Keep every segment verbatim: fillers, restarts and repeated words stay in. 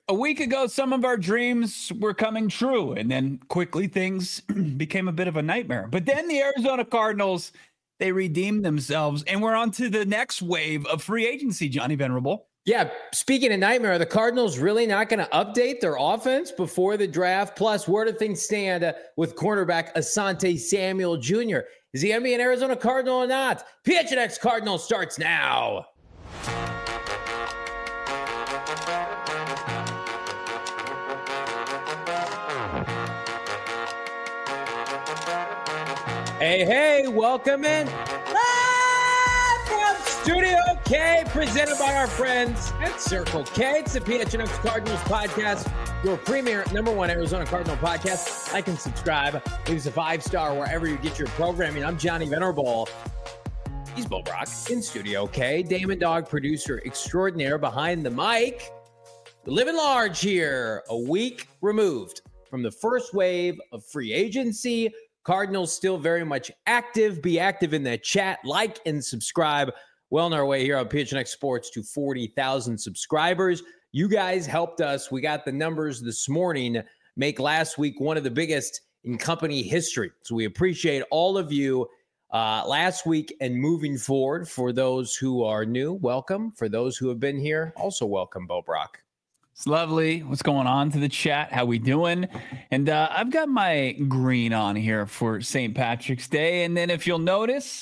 A week ago, some of our dreams were coming true, and then quickly things became a bit of a nightmare. But then the Arizona Cardinals, they redeemed themselves, and we're on to the next wave of free agency, Johnny Venerable. Yeah, speaking of nightmare, are the Cardinals really not going to update their offense before the draft? Plus, where do things stand uh, with cornerback Asante Samuel Junior? Is he going to be an Arizona Cardinal or not? P H N X Cardinals starts now. Hey, hey, welcome in. Live from Studio K, presented by our friends at Circle K. It's the P H N X Cardinals podcast, your premier number one Arizona Cardinal podcast. Like and subscribe. Leave us a five-star wherever you get your programming. I'm Johnny Venerable. He's Bo Brock in Studio K. Damon Dog, producer extraordinaire behind the mic. We're living large here, a week removed from the first wave of free agency. Cardinals still very much active. Be active in the chat. Like and subscribe. Well on our way here on P H N X Sports to forty thousand subscribers. You guys helped us. We got the numbers this morning. Make last week one of the biggest in company history. So we appreciate all of you uh, last week and moving forward. For those who are new, welcome. For those who have been here, also welcome, Bo Brock. It's lovely. What's going on to the chat? How we doing? And uh, I've got my green on here for Saint Patrick's Day. And then if you'll notice,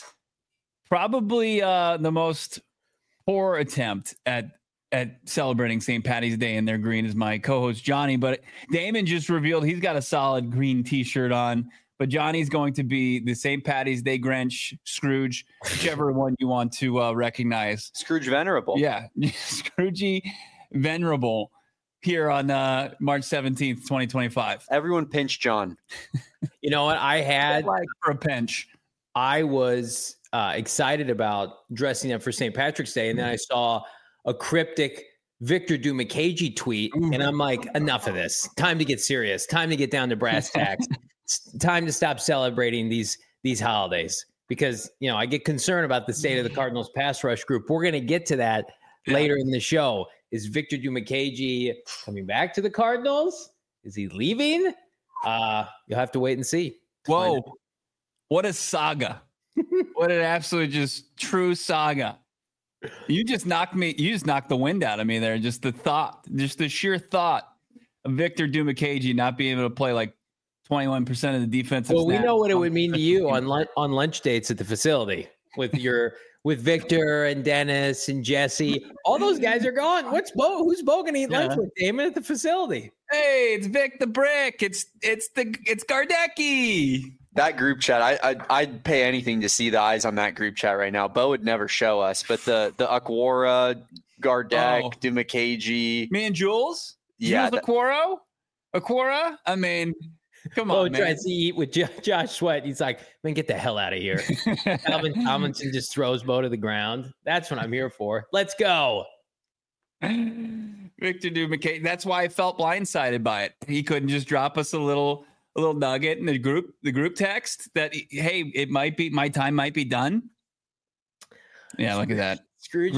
probably uh, the most poor attempt at at celebrating Saint Patty's Day in their green is my co-host Johnny. But Damon just revealed he's got a solid green T-shirt on. But Johnny's going to be the Saint Patty's Day Grinch, Scrooge, whichever one you want to uh, recognize. Scrooge Venerable. Yeah, Scroogey Venerable. Here on uh, March seventeenth, twenty twenty-five. Everyone pinch John. You know what? I had like for a pinch. I was uh, excited about dressing up for Saint Patrick's Day, and then I saw a cryptic Victor Dumakagi tweet, and I'm like, enough of this. Time to get serious. Time to get down to brass tacks. It's time to stop celebrating these these holidays because, you know, I get concerned about the state of the Cardinals pass rush group. We're going to get to that yeah. later in the show. Is Victor Dumakagi coming back to the Cardinals? Is he leaving? Uh, you'll have to wait and see. Whoa. What a saga. What an absolute just true saga. You just knocked me. You just knocked the wind out of me there. Just the thought, just the sheer thought of Victor Dumakagi not being able to play like twenty-one percent of the defensive Well, we know what it would mean to you on lunch, on lunch dates at the facility with your with Victor and Dennis and Jesse. All those guys are gone. What's Bo? Who's Bo gonna eat yeah. lunch with Damon at the facility? Hey, it's Vic the Brick. It's it's the it's Gardecki. That group chat, I, I'd, I'd pay anything to see the eyes on that group chat right now. Bo would never show us, but the the Aquara, Gardek, oh. Dumakagi. Me and Jules? Yeah. Jules Aquaro? Aquara? I mean, come on, Bo man. tries to eat with J- Josh Sweat. He's like, man, get the hell out of here. Alvin Tomlinson just throws Bo to the ground. That's what I'm here for. Let's go. Victor Dumakagi. That's why I felt blindsided by it. He couldn't just drop us a little a little nugget in the group, the group text that, hey, it might be, my time might be done. Yeah, look at that. Scrooge.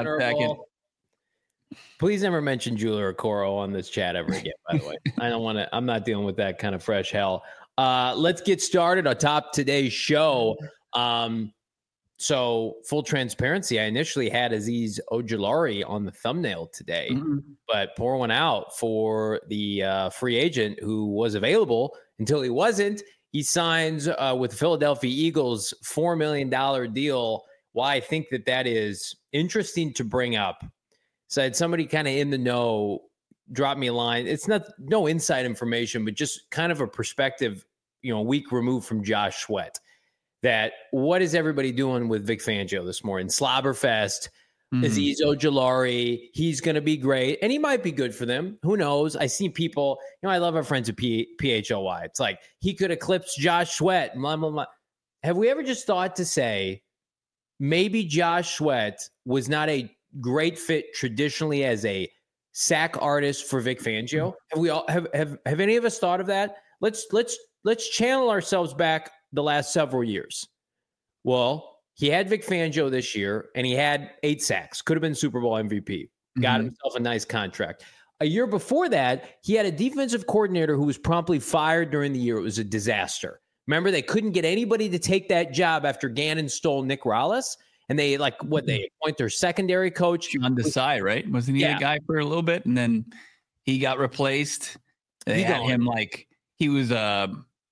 Please never mention Julia Okoro on this chat ever again, by the way. I don't want to, I'm not dealing with that kind of fresh hell. Uh, let's get started on top today's show. Um, so full transparency, I initially had Azeez Ojulari on the thumbnail today, mm-hmm. but pour one out for the uh, free agent who was available until he wasn't. He signs uh, with the Philadelphia Eagles four million dollars deal. Why I think that that is interesting to bring up. So I had somebody kind of in the know drop me a line. It's not no inside information, but just kind of a perspective, you know, a week removed from Josh Sweat. That what is everybody doing with Vic Fangio this morning? Slobberfest, mm-hmm. Azeez Ojulari, he's going to be great. And he might be good for them. Who knows? I see people, you know, I love our friends at P- PHLY. It's like he could eclipse Josh Sweat. Blah, blah, blah. Have we ever just thought to say maybe Josh Sweat was not a great fit traditionally as a sack artist for Vic Fangio? Have we all have, have, have any of us thought of that? Let's, let's, let's channel ourselves back the last several years. Well, he had Vic Fangio this year, and he had eight sacks. Could have been Super Bowl M V P. Got mm-hmm. himself a nice contract. A year before that, he had a defensive coordinator who was promptly fired during the year. It was a disaster. Remember, they couldn't get anybody to take that job after Gannon stole Nick Rallis. And they, like, what, they appoint their secondary coach. John Desai, right? Wasn't he yeah. the guy for a little bit? And then he got replaced. They he had him like, he was a,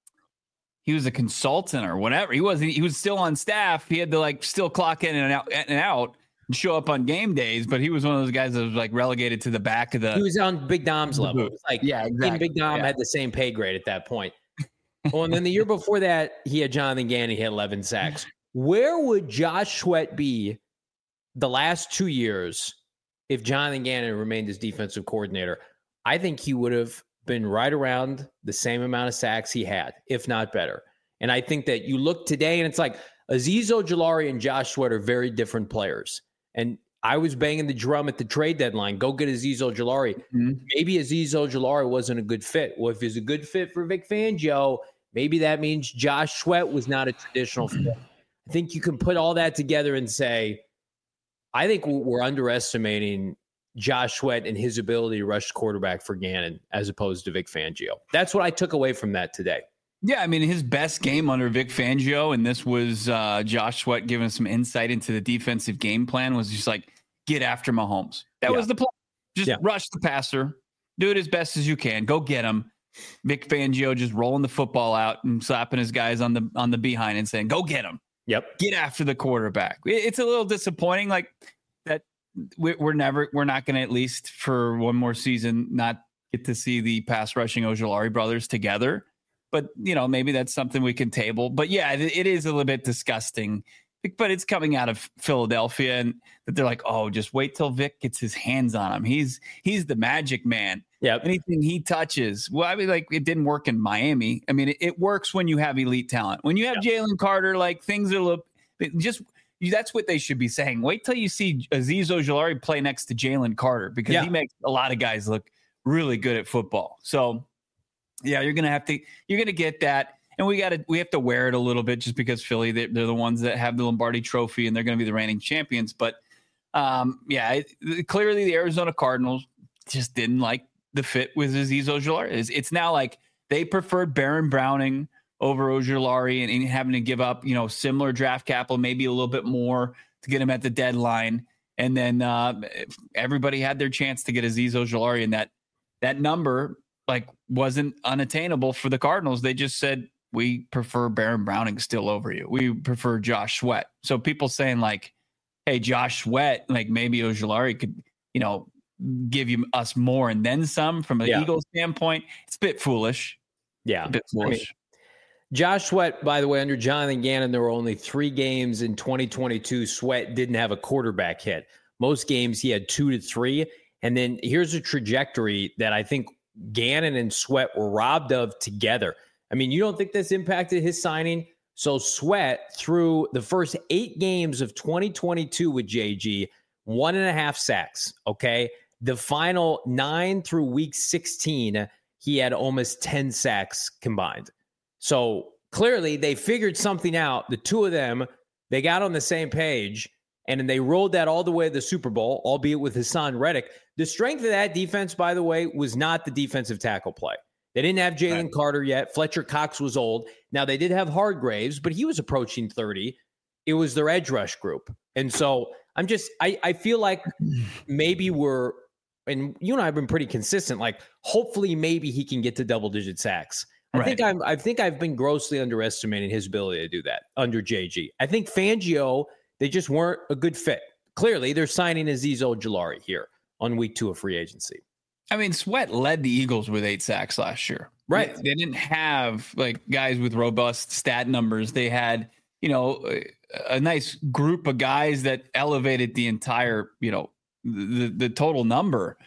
he was a consultant or whatever. He wasn't, he was still on staff. He had to like still clock in and out and out and show up on game days. But he was one of those guys that was like relegated to the back of the. He was on Big Dom's level. It was like, yeah, exactly. Big Dom yeah. had the same pay grade at that point. Well, and then the year before that, he had Jonathan Gannon. He had eleven sacks. Where would Josh Sweat be the last two years if Jonathan Gannon remained as defensive coordinator? I think he would have been right around the same amount of sacks he had, if not better. And I think that you look today and it's like Azeez Ojulari and Josh Sweat are very different players. And I was banging the drum at the trade deadline. Go get Azeez Ojulari. Mm-hmm. Maybe Azeez Ojulari wasn't a good fit. Well, if he's a good fit for Vic Fangio, maybe that means Josh Sweat was not a traditional fit. I think you can put all that together and say, I think we're underestimating Josh Sweat and his ability to rush quarterback for Gannon as opposed to Vic Fangio. That's what I took away from that today. Yeah, I mean, his best game under Vic Fangio, and this was uh, Josh Sweat giving some insight into the defensive game plan, was just like, get after Mahomes. That yeah. was the plan. Just yeah. rush the passer, do it as best as you can, go get him. Vic Fangio just rolling the football out and slapping his guys on the on the behind and saying, go get him. Yep. Get after the quarterback. It's a little disappointing, like that we're never, we're not going to, at least for one more season, not get to see the pass rushing Ojulari brothers together. But, you know, maybe that's something we can table. But yeah, it is a little bit disgusting, but it's coming out of Philadelphia and that they're like, oh, just wait till Vic gets his hands on him. He's, he's the magic man. Yeah. Anything he touches. Well, I mean, like it didn't work in Miami. I mean, it, it works when you have elite talent. When you have yeah. Jalen Carter, like things are look just that's what they should be saying. Wait till you see Azeez Ojulari play next to Jalen Carter because yeah. he makes a lot of guys look really good at football. So yeah, you're gonna have to you're gonna get that. And we got to we have to wear it a little bit just because Philly, they're, they're the ones that have the Lombardi Trophy and they're going to be the reigning champions. But um, yeah, it, clearly the Arizona Cardinals just didn't like the fit with Azeez Ojulari. It's, it's now like they preferred Baron Browning over Ojulari and, and having to give up, you know, similar draft capital, maybe a little bit more to get him at the deadline. And then uh, everybody had their chance to get Azeez Ojulari, and that that number like wasn't unattainable for the Cardinals. They just said, we prefer Baron Browning still over you. We prefer Josh Sweat. So people saying like, hey, Josh Sweat, like maybe Ojulari could, you know, give you us more and then some from an yeah. Eagles standpoint. It's a bit foolish. Yeah. A bit foolish. I mean, Josh Sweat, by the way, under Jonathan Gannon, there were only three games in twenty twenty-two. Sweat didn't have a quarterback hit. Most games he had two to three. And then here's a trajectory that I think Gannon and Sweat were robbed of together. I mean, you don't think this impacted his signing? So Sweat, through the first eight games of twenty twenty-two with J G, one and a half sacks, okay? The final nine through week sixteen, he had almost ten sacks combined. So clearly they figured something out. The two of them, they got on the same page, and then they rolled that all the way to the Super Bowl, albeit with Hassan Reddick. The strength of that defense, by the way, was not the defensive tackle play. They didn't have Jalen right. Carter yet. Fletcher Cox was old. Now, they did have Hargraves, but he was approaching thirty. It was their edge rush group. And so I'm just, I, I feel like maybe we're, and you and I have been pretty consistent, like hopefully maybe he can get to double-digit sacks. I right. think I'm, I think I've been grossly underestimating his ability to do that under J G. I think Fangio, they just weren't a good fit. Clearly, they're signing Azeez Ojulari here on week two of free agency. I mean, Sweat led the Eagles with eight sacks last year. Right. They, they didn't have like guys with robust stat numbers. They had, you know, a, a nice group of guys that elevated the entire, you know, the the total number.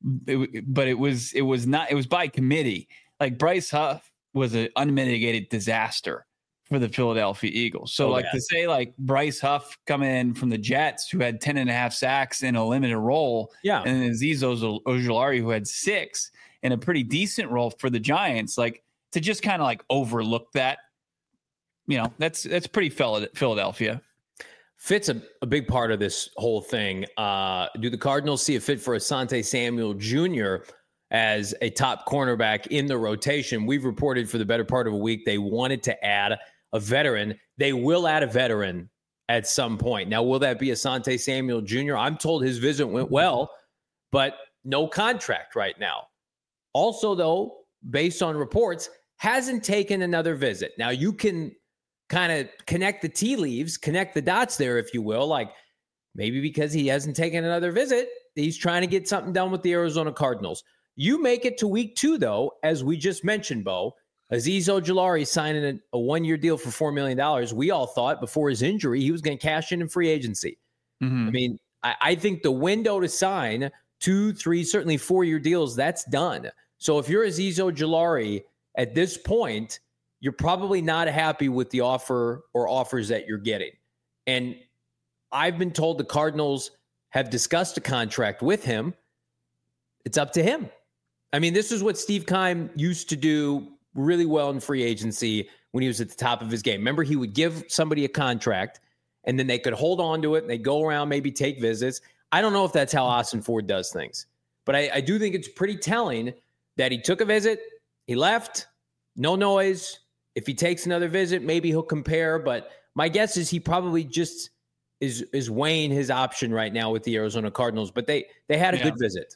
It, but it was it was not it was by committee. Like Bryce Huff was an unmitigated disaster for the Philadelphia Eagles. So oh, like yeah. to say like Bryce Huff coming in from the Jets who had ten and a half sacks in a limited role. Yeah. And then Azeez Ojulari who had six in a pretty decent role for the Giants, like to just kind of like overlook that, you know, that's, that's pretty Philadelphia. Fit's a, a big part of this whole thing. Uh, do the Cardinals see a fit for Asante Samuel Junior as a top cornerback in the rotation? We've reported for the better part of a week they wanted to add a veteran. They will add a veteran at some point. Now, will that be Asante Samuel Junior? I'm told his visit went well, but no contract right now. Also, though, based on reports, hasn't taken another visit. Now, you can kind of connect the tea leaves, connect the dots there, if you will. Like maybe because he hasn't taken another visit, he's trying to get something done with the Arizona Cardinals. You make it to week two, though, as we just mentioned, Bo. Azeez Ojulari signing a, a one-year deal for four million dollars. We all thought before his injury he was going to cash in in free agency. Mm-hmm. I mean, I, I think the window to sign two, three, certainly four-year deals, that's done. So if you're Azeez Ojulari at this point, you're probably not happy with the offer or offers that you're getting. And I've been told the Cardinals have discussed a contract with him. It's up to him. I mean, this is what Steve Keim used to do really well in free agency when he was at the top of his game. Remember, he would give somebody a contract, and then they could hold on to it, and they'd go around, maybe take visits. I don't know if that's how Austin Ford does things. But I, I do think it's pretty telling that he took a visit, he left, no noise. If he takes another visit, maybe he'll compare. But my guess is he probably just is is weighing his option right now with the Arizona Cardinals. But they they had a yeah. good visit.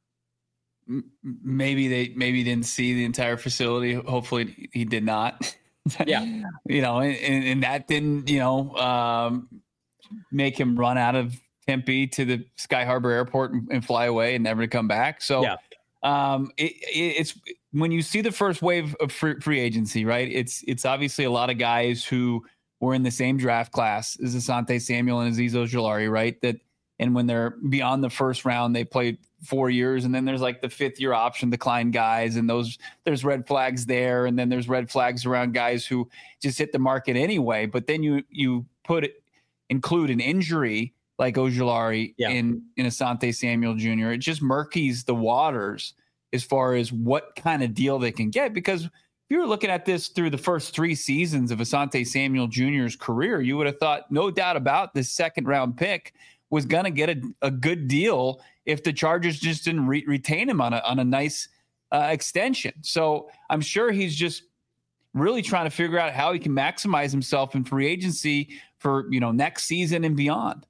Maybe they maybe didn't see the entire facility. Hopefully he did not. Yeah, you know, and, and that didn't you know um, make him run out of Tempe to the Sky Harbor Airport and, and fly away and never to come back. So yeah. um, it, it, it's. When you see the first wave of free, free agency, right, it's it's obviously a lot of guys who were in the same draft class as Asante Samuel and Azeez Ojulari, right? That and when they're beyond the first round, they played four years, and then there's like the fifth year option decline guys, and those there's red flags there, and then there's red flags around guys who just hit the market anyway. But then you you put it include an injury like Ojulari yeah. in in Asante Samuel Junior It just murkies the waters as far as what kind of deal they can get. Because if you were looking at this through the first three seasons of Asante Samuel Junior's career, you would have thought, no doubt about this second round pick was going to get a, a good deal if the Chargers just didn't re- retain him on a, on a nice uh, extension. So I'm sure he's just really trying to figure out how he can maximize himself in free agency for, you know, next season and beyond.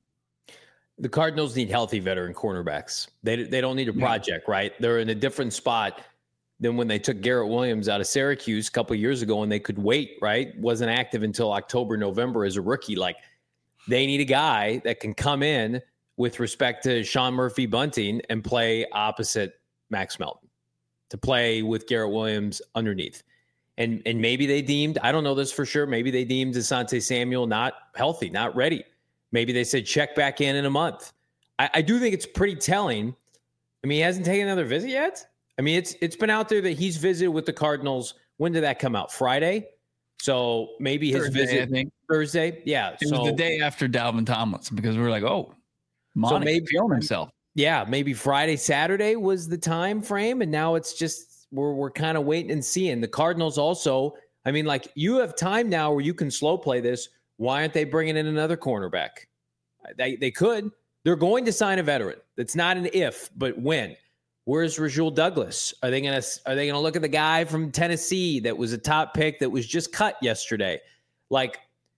The Cardinals need healthy veteran cornerbacks. They they don't need a project, yeah. right? They're in a different spot than when they took Garrett Williams out of Syracuse a couple of years ago and they could wait, right? Wasn't active until October, November as a rookie. Like, they need a guy that can come in with respect to Sean Murphy Bunting and play opposite Max Melton, to play with Garrett Williams underneath. And, and maybe they deemed, I don't know this for sure, maybe they deemed Asante Samuel not healthy, not ready. Maybe they said, check back in in a month. I, I do think it's pretty telling. I mean, he hasn't taken another visit yet. I mean, it's it's been out there that he's visited with the Cardinals. When did that come out? Friday? So maybe his Thursday, visit I think. Thursday. Yeah. It so, was the day after Dalvin Tomlinson because we were like, oh, Monica so maybe feeling himself. Yeah, maybe Friday, Saturday was the time frame, and now it's just we're we're kind of waiting and seeing. The Cardinals also, I mean, like, you have time now where you can slow play this. Why aren't they bringing in another cornerback? They they could. They're going to sign a veteran. That's not an if, but when. Where's Rasul Douglas? Are they gonna Are they gonna look at the guy from Tennessee that was a top pick that was just cut yesterday? Like,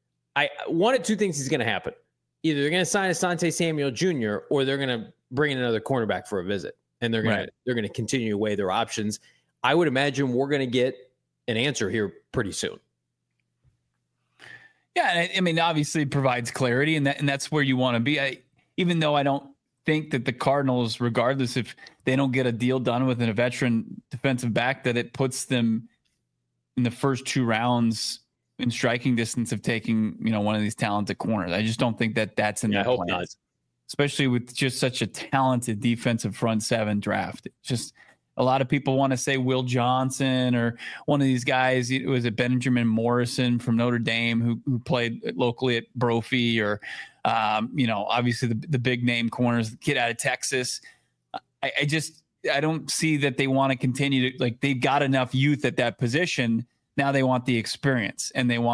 I one of two things is going to happen. Either they're going to sign Asante Samuel Junior or they're going to bring in another cornerback for a visit, and they're going right. to they're going to continue to weigh their options. I would imagine we're going to get an answer here pretty soon. Yeah, I mean, obviously it provides clarity, and that and that's where you want to be. I, even though I don't think that the Cardinals, regardless if they don't get a deal done with a veteran defensive back, that it puts them in the first two rounds in striking distance of taking, you know, one of these talented corners. I just don't think that that's in yeah, their I hope plans, not. Especially with just such a talented defensive front seven draft. It's just a lot of people want to say Will Johnson or one of these guys. It was it Benjamin Morrison from Notre Dame who who played locally at Brophy, or um, you know, obviously the the big name corners, the kid out of Texas. I, I just I don't see that they want to continue to, like, they've got enough youth at that position. Now they want the experience, and they want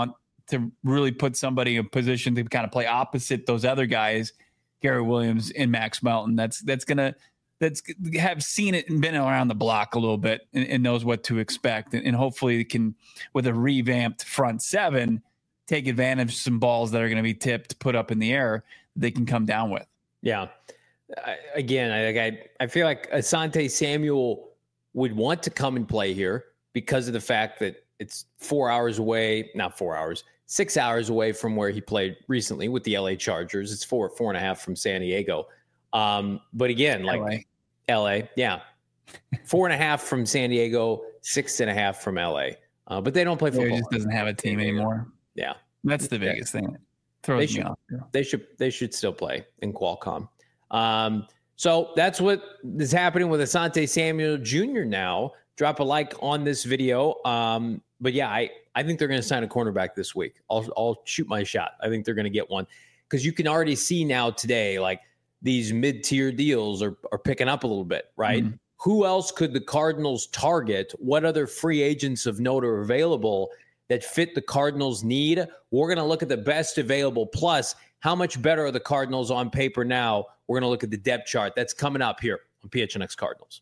to really put somebody in a position to kind of play opposite those other guys, Gary Williams and Max Melton. That's that's gonna that's have seen it and been around the block a little bit and, and knows what to expect, and, and hopefully can, with a revamped front seven, take advantage of some balls that are going to be tipped, put up in the air, they can come down with. Yeah. I, again, I, I I feel like Asante Samuel would want to come and play here because of the fact that it's four hours away, not four hours, six hours away from where he played recently with the L A Chargers. It's four, four and a half from San Diego. Um, but again, like L A, L A yeah, four and a half from San Diego, six and a half from L A. Uh, but they don't play football. He just doesn't have a team anymore. Yeah, that's the biggest thing. That throws they me should, off. They should they should still play in Qualcomm. Um, so that's what is happening with Asante Samuel Junior now. Drop a like on this video. Um, but yeah, I, I think they're going to sign a cornerback this week. I'll, I'll shoot my shot. I think they're going to get one because you can already see now today, like these mid-tier deals are, are picking up a little bit, right? Mm-hmm. Who else could the Cardinals target? What other free agents of note are available that fit the Cardinals' need? We're going to look at the best available. Plus, how much better are the Cardinals on paper now? We're going to look at the depth chart. That's coming up here on P H N X Cardinals.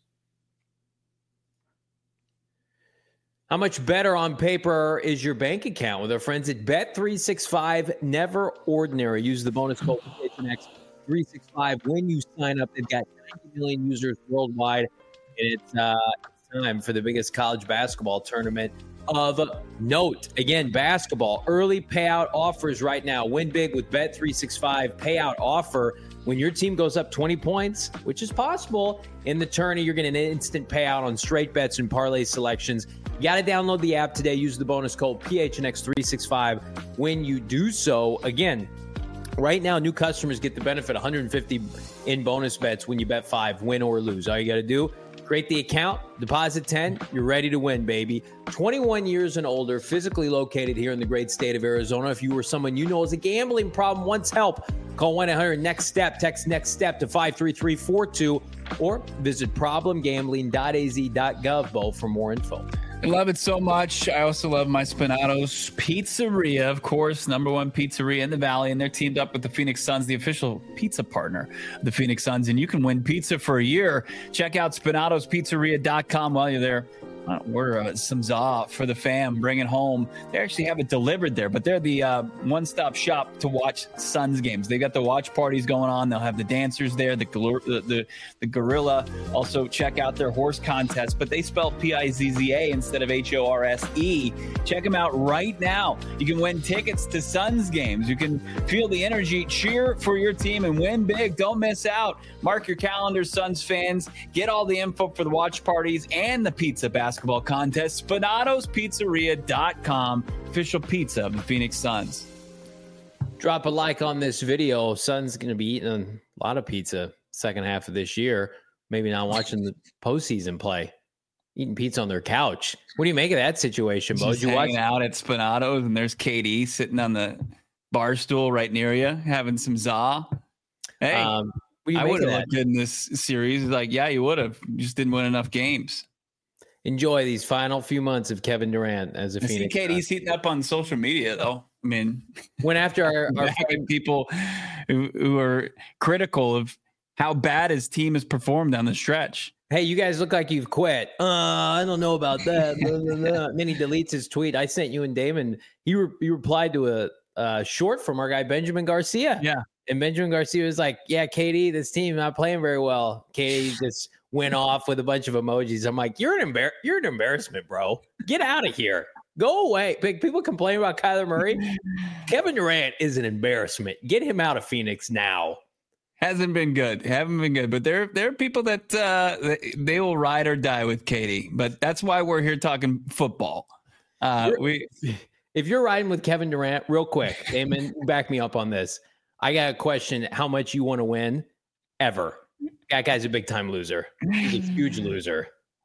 How much better on paper is your bank account with our friends at Bet three sixty-five? Never ordinary. Use the bonus code P H N X three sixty-five when you sign up. They've got ninety million users worldwide, and it's uh, time for the biggest college basketball tournament of note. Again, basketball early payout offers right now. Win big with Bet three sixty-five payout offer. When your team goes up twenty points, which is possible in the tourney, you're getting an instant payout on straight bets and parlay selections. You got to download the app today. Use the bonus code P H N X three sixty-five when you do so. Again, right now, new customers get the benefit one hundred fifty in bonus bets when you bet five, win or lose. All you got to do, create the account, deposit ten, you're ready to win, baby. twenty-one years and older, physically located here in the great state of Arizona. If you or someone you know has a gambling problem, wants help, call one eight hundred next step, text next step to five three three four two, or visit problem gambling dot a z dot gov, Bo, for more info. I love it so much. I also love my Spinato's Pizzeria, of course, number one pizzeria in the Valley, and they're teamed up with the Phoenix Suns, the official pizza partner of the Phoenix Suns, and you can win pizza for a year. Check out spinatos pizzeria dot com while you're there. Order uh, some za for the fam, bring it home. They actually have it delivered there, but they're the uh, one-stop shop to watch Suns games. They got the watch parties going on. They'll have the dancers there, the the the, the gorilla. Also, check out their horse contest, but they spell P I Z Z A instead of H O R S E. Check them out right now. You can win tickets to Suns games. You can feel the energy, cheer for your team, and win big. Don't miss out. Mark your calendar, Suns fans. Get all the info for the watch parties and the pizza basket basketball contest. spinatos pizzeria dot com, official pizza of the Phoenix Suns. Drop a like on this video. Suns going to be eating a lot of pizza second half of this year. Maybe not watching the postseason play. Eating pizza on their couch. What do you make of that situation, Bo? Just you hanging watch- out at Spinatos, and there's K D sitting on the bar stool right near you, having some za. Hey, um, I would have looked good in this series. Like, yeah, you would have. You just didn't win enough games. Enjoy these final few months of Kevin Durant as a I Phoenix. See K D's heating up on social media, though. I mean, when after our, our people who, who are critical of how bad his team has performed down the stretch. Hey, you guys look like you've quit. Uh, I don't know about that. blah, blah, blah. And then he deletes his tweet. I sent you and Damon. He re- he replied to a uh, short from our guy Benjamin Garcia. Yeah, and Benjamin Garcia was like, "Yeah, K D, this team not playing very well." K D just went off with a bunch of emojis. I'm like, "You're an embar- You're an embarrassment, bro. Get out of here. Go away." Big people complain about Kyler Murray. Kevin Durant is an embarrassment. Get him out of Phoenix now. Hasn't been good. Haven't been good. But there, there are people that uh, they will ride or die with K D. But that's why we're here talking football. Uh, we, if you're riding with Kevin Durant, real quick, Damon, back me up on this. I got a question: how much you want to win ever? That guy's a big time loser. He's a huge loser.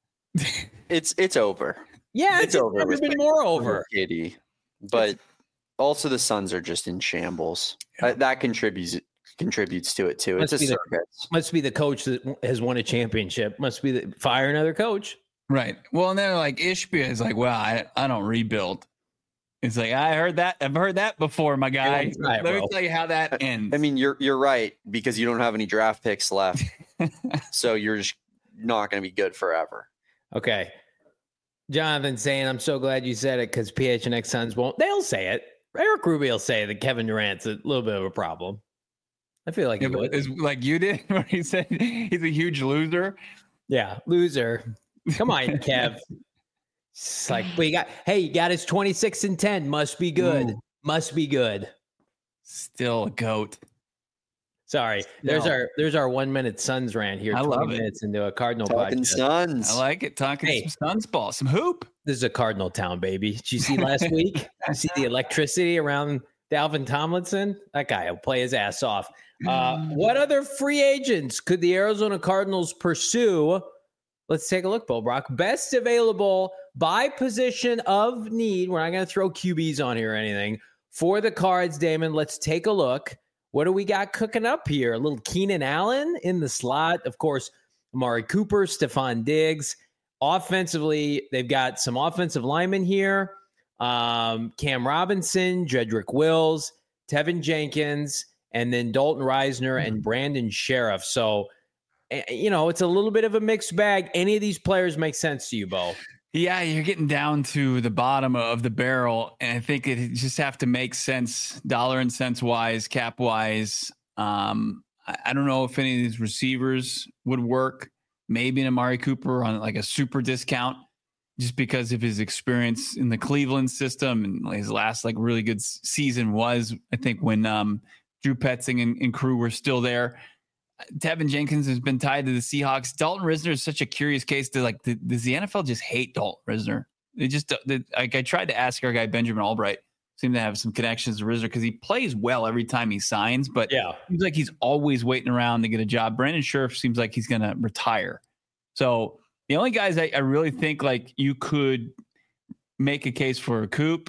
It's it's over. Yeah, it's, it's over. Never been more over. K D, but it's, also the Suns are just in shambles. Yeah. Uh, that contributes contributes to it too. It's a circus. The, must be the coach that has won a championship. Must be the fire another coach. Right. Well, and then like Ishbia is like, well, I I don't rebuild. It's like, I heard that. I've heard that before, my guy. Right, Let bro. me tell you how that ends. I mean, you're you're right because you don't have any draft picks left, so you're just not going to be good forever. Okay. Jonathan saying, I'm so glad you said it because P H N X Suns won't. They'll say it. Eric Rubio will say that Kevin Durant's a little bit of a problem. I feel like Yeah, he would. it's like you did, where he said he's a huge loser. Yeah, loser. Come on, Kev. It's like, but you got, hey, you got his twenty-six and ten. Must be good. Ooh. Must be good. Still a goat. Sorry. There's our there's our one minute Suns rant here. I twenty love it. minutes into a Cardinal Talking podcast. Suns. I like it. Talking Hey. some Suns ball, some hoop. This is a Cardinal town, baby. Did you see last week? Did you see the electricity around Dalvin Tomlinson? That guy will play his ass off. Uh, what other free agents could the Arizona Cardinals pursue? Let's take a look, Bo Brock. Best available by position of need. We're not going to throw Q Bs on here or anything. For the Cards, Damon, let's take a look. What do we got cooking up here? A little Keenan Allen in the slot. Of course, Amari Cooper, Stephon Diggs. Offensively, they've got some offensive linemen here. Um, Cam Robinson, Jedrick Wills, Tevin Jenkins, and then Dalton Reisner and Brandon Sheriff. So, you know, it's a little bit of a mixed bag. Any of these players make sense to you, Bo? Yeah, you're getting down to the bottom of the barrel, and I think it just have to make sense, dollar and cents wise, cap wise. Um, I, I don't know if any of these receivers would work. Maybe an Amari Cooper on like a super discount, just because of his experience in the Cleveland system, and his last like really good season was, I think, when um, Drew Petzing and, and crew were still there. Tevin Jenkins has been tied to the Seahawks. Dalton Risner is such a curious case. To like, the, does the N F L just hate Dalton Risner? They just they, like I tried to ask our guy Benjamin Albright, seemed to have some connections to Risner because he plays well every time he signs, but Yeah. it seems like he's always waiting around to get a job. Brandon Sheriff seems like he's going to retire. So the only guys I, I really think like you could make a case for a Coop,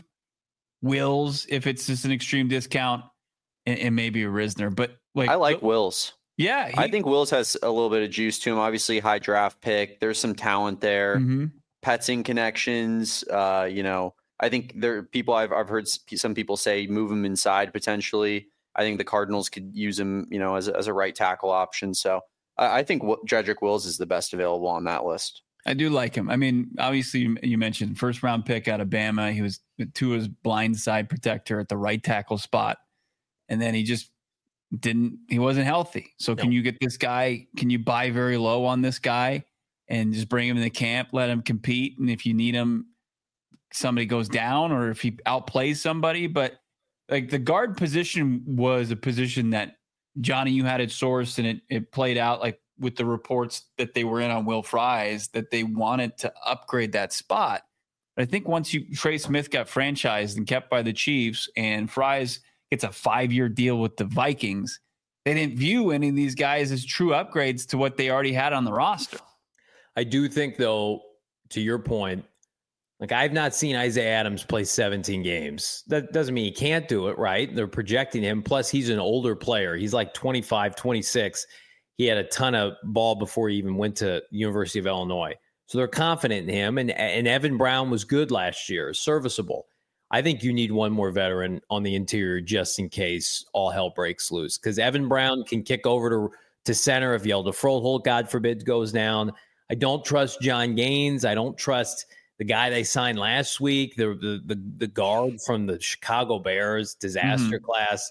Wills, if it's just an extreme discount, and, and maybe a Risner. But like I like Wills. Yeah, he, I think Wills has a little bit of juice to him. Obviously, high draft pick. There's some talent there. Mm-hmm. Petzing connections. Uh, you know, I think there are people I've I've heard some people say move him inside potentially. I think the Cardinals could use him, you know, as a, as a right tackle option. So I, I think Jedrick Wills is the best available on that list. I do like him. I mean, obviously, you, you mentioned first round pick out of Bama. He was Tua's blind side protector at the right tackle spot, and then he just didn't. He wasn't healthy. So No. can you get this guy? Can you buy very low on this guy and just bring him in the camp, let him compete, and if you need him, somebody goes down, or if he outplays somebody. But like the guard position was a position that Johnny, you had it sourced, and it it played out like with the reports that they were in on Will Fries, that they wanted to upgrade that spot. But I think once you Trey Smith got franchised and kept by the Chiefs, and Fries gets a five-year deal with the Vikings, they didn't view any of these guys as true upgrades to what they already had on the roster. I do think, though, to your point, like I've not seen Isaiah Adams play seventeen games. That doesn't mean he can't do it, right? They're projecting him. Plus, he's an older player. He's like twenty-five, twenty-six. He had a ton of ball before he even went to University of Illinois. So they're confident in him. And, and Evan Brown was good last year, serviceable. I think you need one more veteran on the interior just in case all hell breaks loose. Because Evan Brown can kick over to, to center if Yelda Froholt, God forbid, goes down. I don't trust John Gaines. I don't trust the guy they signed last week, the the the, the guard from the Chicago Bears disaster mm-hmm. class.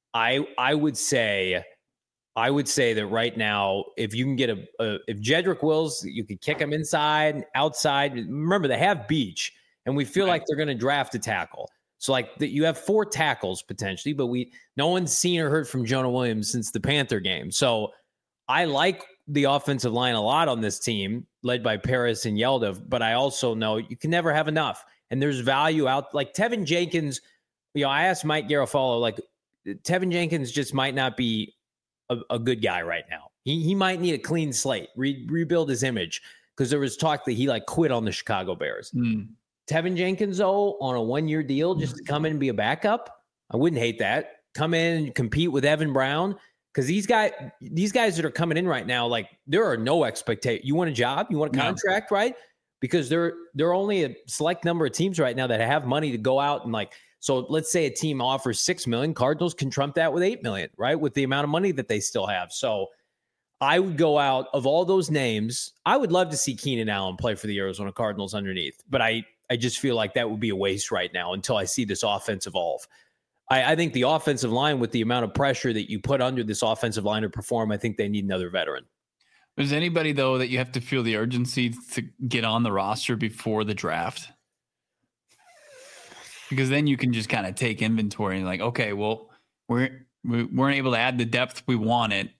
I I would say I would say that right now, if you can get a, a if Jedrick Wills, you could kick him inside, outside. Remember, they have Beach, and we feel right. like they're going to draft a tackle. So like the, you have four tackles potentially, but we no one's seen or heard from Jonah Williams since the Panther game. So I like the offensive line a lot on this team, led by Paris and Yelda, but I also know you can never have enough. And there's value out like Tevin Jenkins. You know, I asked Mike Garofalo, like Tevin Jenkins just might not be a, a good guy right now. He he might need a clean slate, re- rebuild his image, because there was talk that he like quit on the Chicago Bears. Mm. Tevin Jenkins, though, on a one-year deal just to come in and be a backup, I wouldn't hate that. Come in and compete with Evan Brown. Because these guys, these guys that are coming in right now, like there are no expectations. You want a job, you want a contract, no. right? because there, there are only a select number of teams right now that have money to go out and like, so let's say a team offers six million, Cardinals can trump that with eight million, right? With the amount of money that they still have. So I would go out of all those names. I would love to see Keenan Allen play for the Arizona Cardinals underneath, but I, I just feel like that would be a waste right now until I see this offense evolve. I, I think the offensive line, with the amount of pressure that you put under this offensive line to perform, I think they need another veteran. Is anybody, though, that you have to feel the urgency to get on the roster before the draft? Because then you can just kind of take inventory and like, okay, well, we're, we weren't able to add the depth we wanted,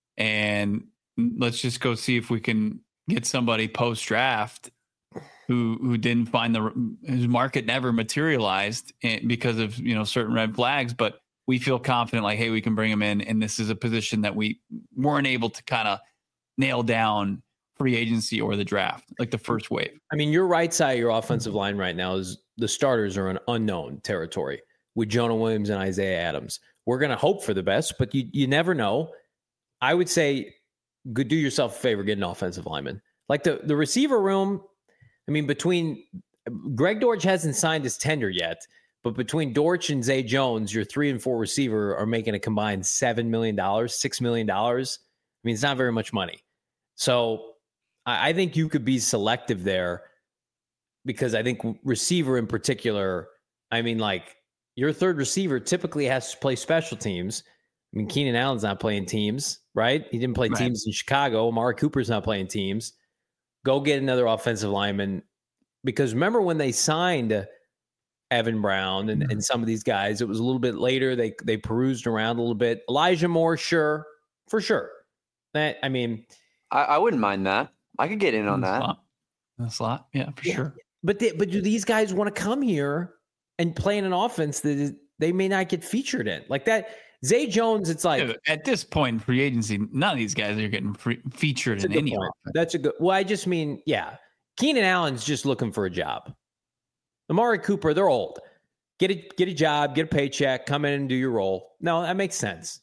and let's just go see if we can get somebody post draft who who didn't find the whose market never materialized because of, you know, certain red flags, but we feel confident like, hey, we can bring him in, and this is a position that we weren't able to kind of nail down free agency or the draft, like the first wave. I mean, your right side of your offensive line right now is the starters are in unknown territory with Jonah Williams and Isaiah Adams. We're going to hope for the best, but you you never know. I would say, good, do yourself a favor, get an offensive lineman. Like the, the receiver room, I mean, between Greg Dortch hasn't signed his tender yet, but between Dortch and Zay Jones, your three and four receiver are making a combined seven million dollars, six million dollars. I mean, it's not very much money. So I, I think you could be selective there, because I think receiver in particular, I mean, like your third receiver typically has to play special teams. I mean, Keenan Allen's not playing teams, right? He didn't play right. teams in Chicago. Amari Cooper's not playing teams. Go get another offensive lineman, because remember when they signed Evan Brown and, and some of these guys, it was a little bit later. They they perused around a little bit. Elijah Moore, sure, for sure. That I mean, I, I wouldn't mind that. I could get in on that. Slot. A slot, yeah, for yeah. sure. But they, but do these guys want to come here and play in an offense that is, they may not get featured in like that? Zay Jones, it's like yeah, at this point in free agency, none of these guys are getting free, featured in any offense. That's a good. Well, I just mean, yeah, Keenan Allen's just looking for a job. Amari Cooper, they're old. Get a get a job, get a paycheck, come in and do your role. No, that makes sense.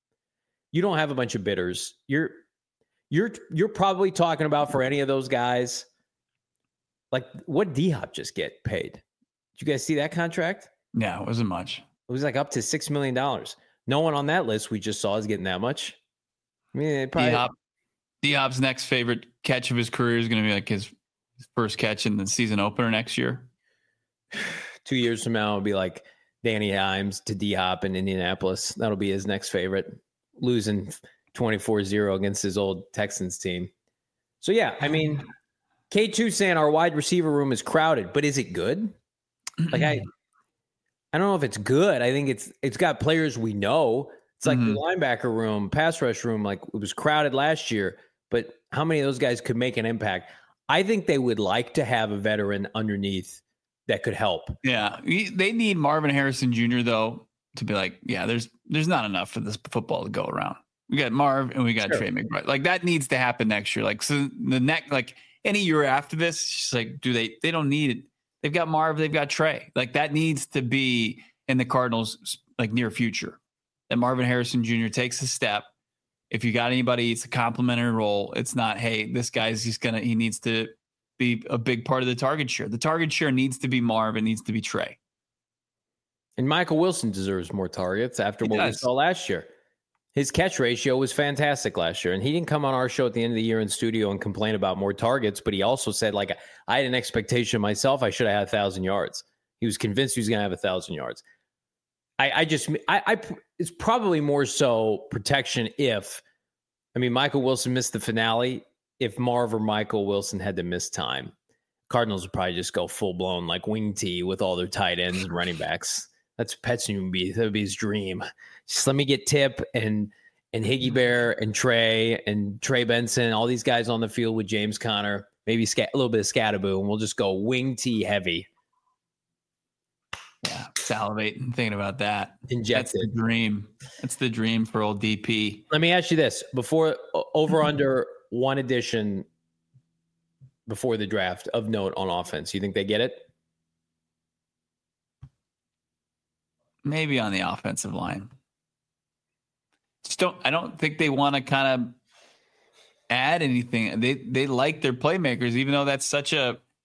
You don't have a bunch of bidders. You're you're you're probably talking about, for any of those guys, like what D-Hop just get paid. Did you guys see that contract? Yeah, it wasn't much. It was like up to six million dollars. No one on that list we just saw is getting that much. I mean, probably D-Hop, D-Hop's next favorite catch of his career is going to be like his first catch in the season opener next year. Two years from now, it'll be like Danny Himes to D-Hop in Indianapolis. That'll be his next favorite, losing twenty-four zero against his old Texans team. So, yeah, I mean, K two saying our wide receiver room is crowded, but is it good? Like, I I don't know if it's good. I think it's it's got players we know. It's like mm-hmm. the linebacker room, pass rush room, like it was crowded last year, but how many of those guys could make an impact? I think they would like to have a veteran underneath that could help. Yeah. They need Marvin Harrison Junior, though, to be like, yeah, there's there's not enough for this football to go around. We got Marv and we got sure. Trey McBride. Like that needs to happen next year. Like so the next, like any year after this, it's just like, do they, they don't need it. They've got Marv, they've got Trey. Like that needs to be in the Cardinals like near future. That Marvin Harrison Junior takes a step. If you got anybody, it's a complimentary role. It's not, hey, this guy's he's gonna he needs to be a big part of the target share. The target share needs to be Marv. It needs to be Trey. And Michael Wilson deserves more targets after he what does. we saw last year. His catch ratio was fantastic last year, and he didn't come on our show at the end of the year in studio and complain about more targets, but he also said, like, I had an expectation myself. I should have had a thousand yards. He was convinced he was going to have a thousand yards. I, I just, I, I, it's probably more so protection if, I mean, Michael Wilson missed the finale. If Marv or Michael Wilson had to miss time, Cardinals would probably just go full blown like wing tee with all their tight ends and running backs. That's Pet's would be that would be his dream. Just let me get Tip and and Higgy Bear and Trey and Trey Benson, all these guys on the field with James Conner, maybe scat, a little bit of Scattaboo, and we'll just go wing tee heavy. Yeah, salivating thinking about that. Inject That's it. the dream. That's the dream for old D P. Let me ask you this: before over under one addition before the draft of note on offense, you think they get it? Maybe on the offensive line. Just don't. I don't think they want to kind of add anything. They they like their playmakers, even though that's such a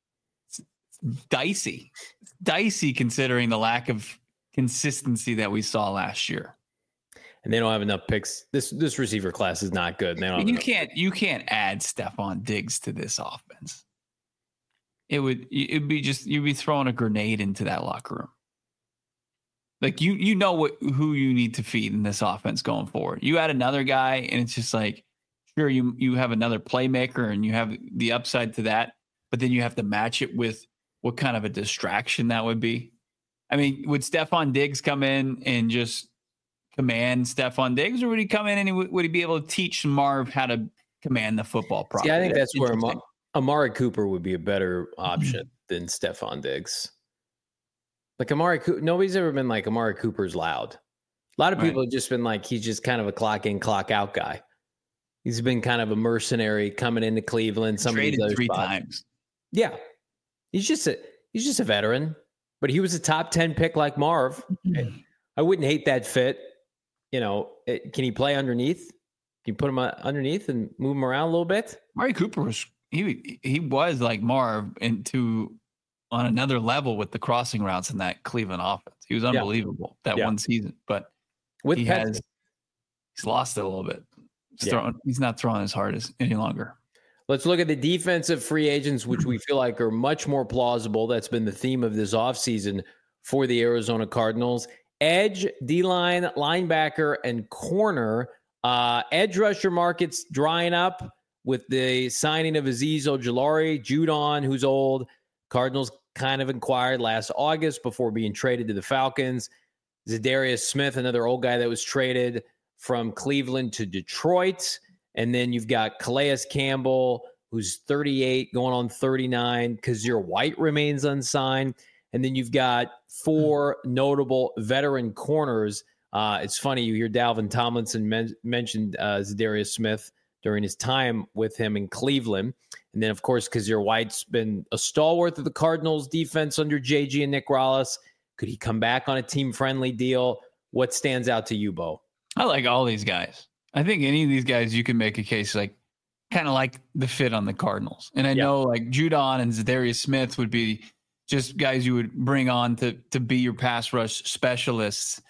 dicey. It's dicey considering the lack of consistency that we saw last year. And they don't have enough picks. This this receiver class is not good. They don't have you enough. can't you can't add Stephon Diggs to this offense. It would it'd be just you'd be throwing a grenade into that locker room. Like you you know what who you need to feed in this offense going forward. You add another guy, and it's just like, sure, you you have another playmaker and you have the upside to that, but then you have to match it with what kind of a distraction that would be. I mean, would Stephon Diggs come in and just command Stephon Diggs, or would he come in and he, would he be able to teach Marv how to command the football properly? Yeah, I think that's, that's where Amari, Amari Cooper would be a better option mm-hmm. than Stephon Diggs. Like Amari Cooper, nobody's ever been like Amari Cooper's loud. A lot of people right. have just been like, he's just kind of a clock in, clock out guy. He's been kind of a mercenary coming into Cleveland. Somebody traded three spots. times. Yeah, he's just a he's just a veteran, but he was a top ten pick like Marv. Mm-hmm. I wouldn't hate that fit. You know, it, can he play underneath? Can you put him underneath and move him around a little bit? Amari Cooper was he he was like Marv into on another level with the crossing routes in that Cleveland offense. He was unbelievable yeah. that yeah. one season, but with he Pets- has he's lost it a little bit. He's, yeah. throwing, he's not throwing as hard as any longer. Let's look at the defensive free agents, which we feel like are much more plausible. That's been the theme of this offseason for the Arizona Cardinals. Edge, D-line, linebacker, and corner. Uh, edge rusher market's drying up with the signing of Azeez Ojulari, Judon, who's old. Cardinals kind of inquired last August before being traded to the Falcons. Zadarius Smith, another old guy that was traded from Cleveland to Detroit. And then you've got Calais Campbell, who's thirty-eight, going on thirty-nine. Kazir White remains unsigned. And then you've got four notable veteran corners. Uh, it's funny, you hear Dalvin Tomlinson men- mentioned uh, Zadarius Smith during his time with him in Cleveland. And then, of course, Kazir White's been a stalwart of the Cardinals' defense under J G and Nick Rallis. Could he come back on a team-friendly deal? What stands out to you, Bo? I like all these guys. I think any of these guys, you can make a case like kind of like the fit on the Cardinals. And I yeah. know like Judon and Zadarius Smith would be just guys you would bring on to to be your pass rush specialists.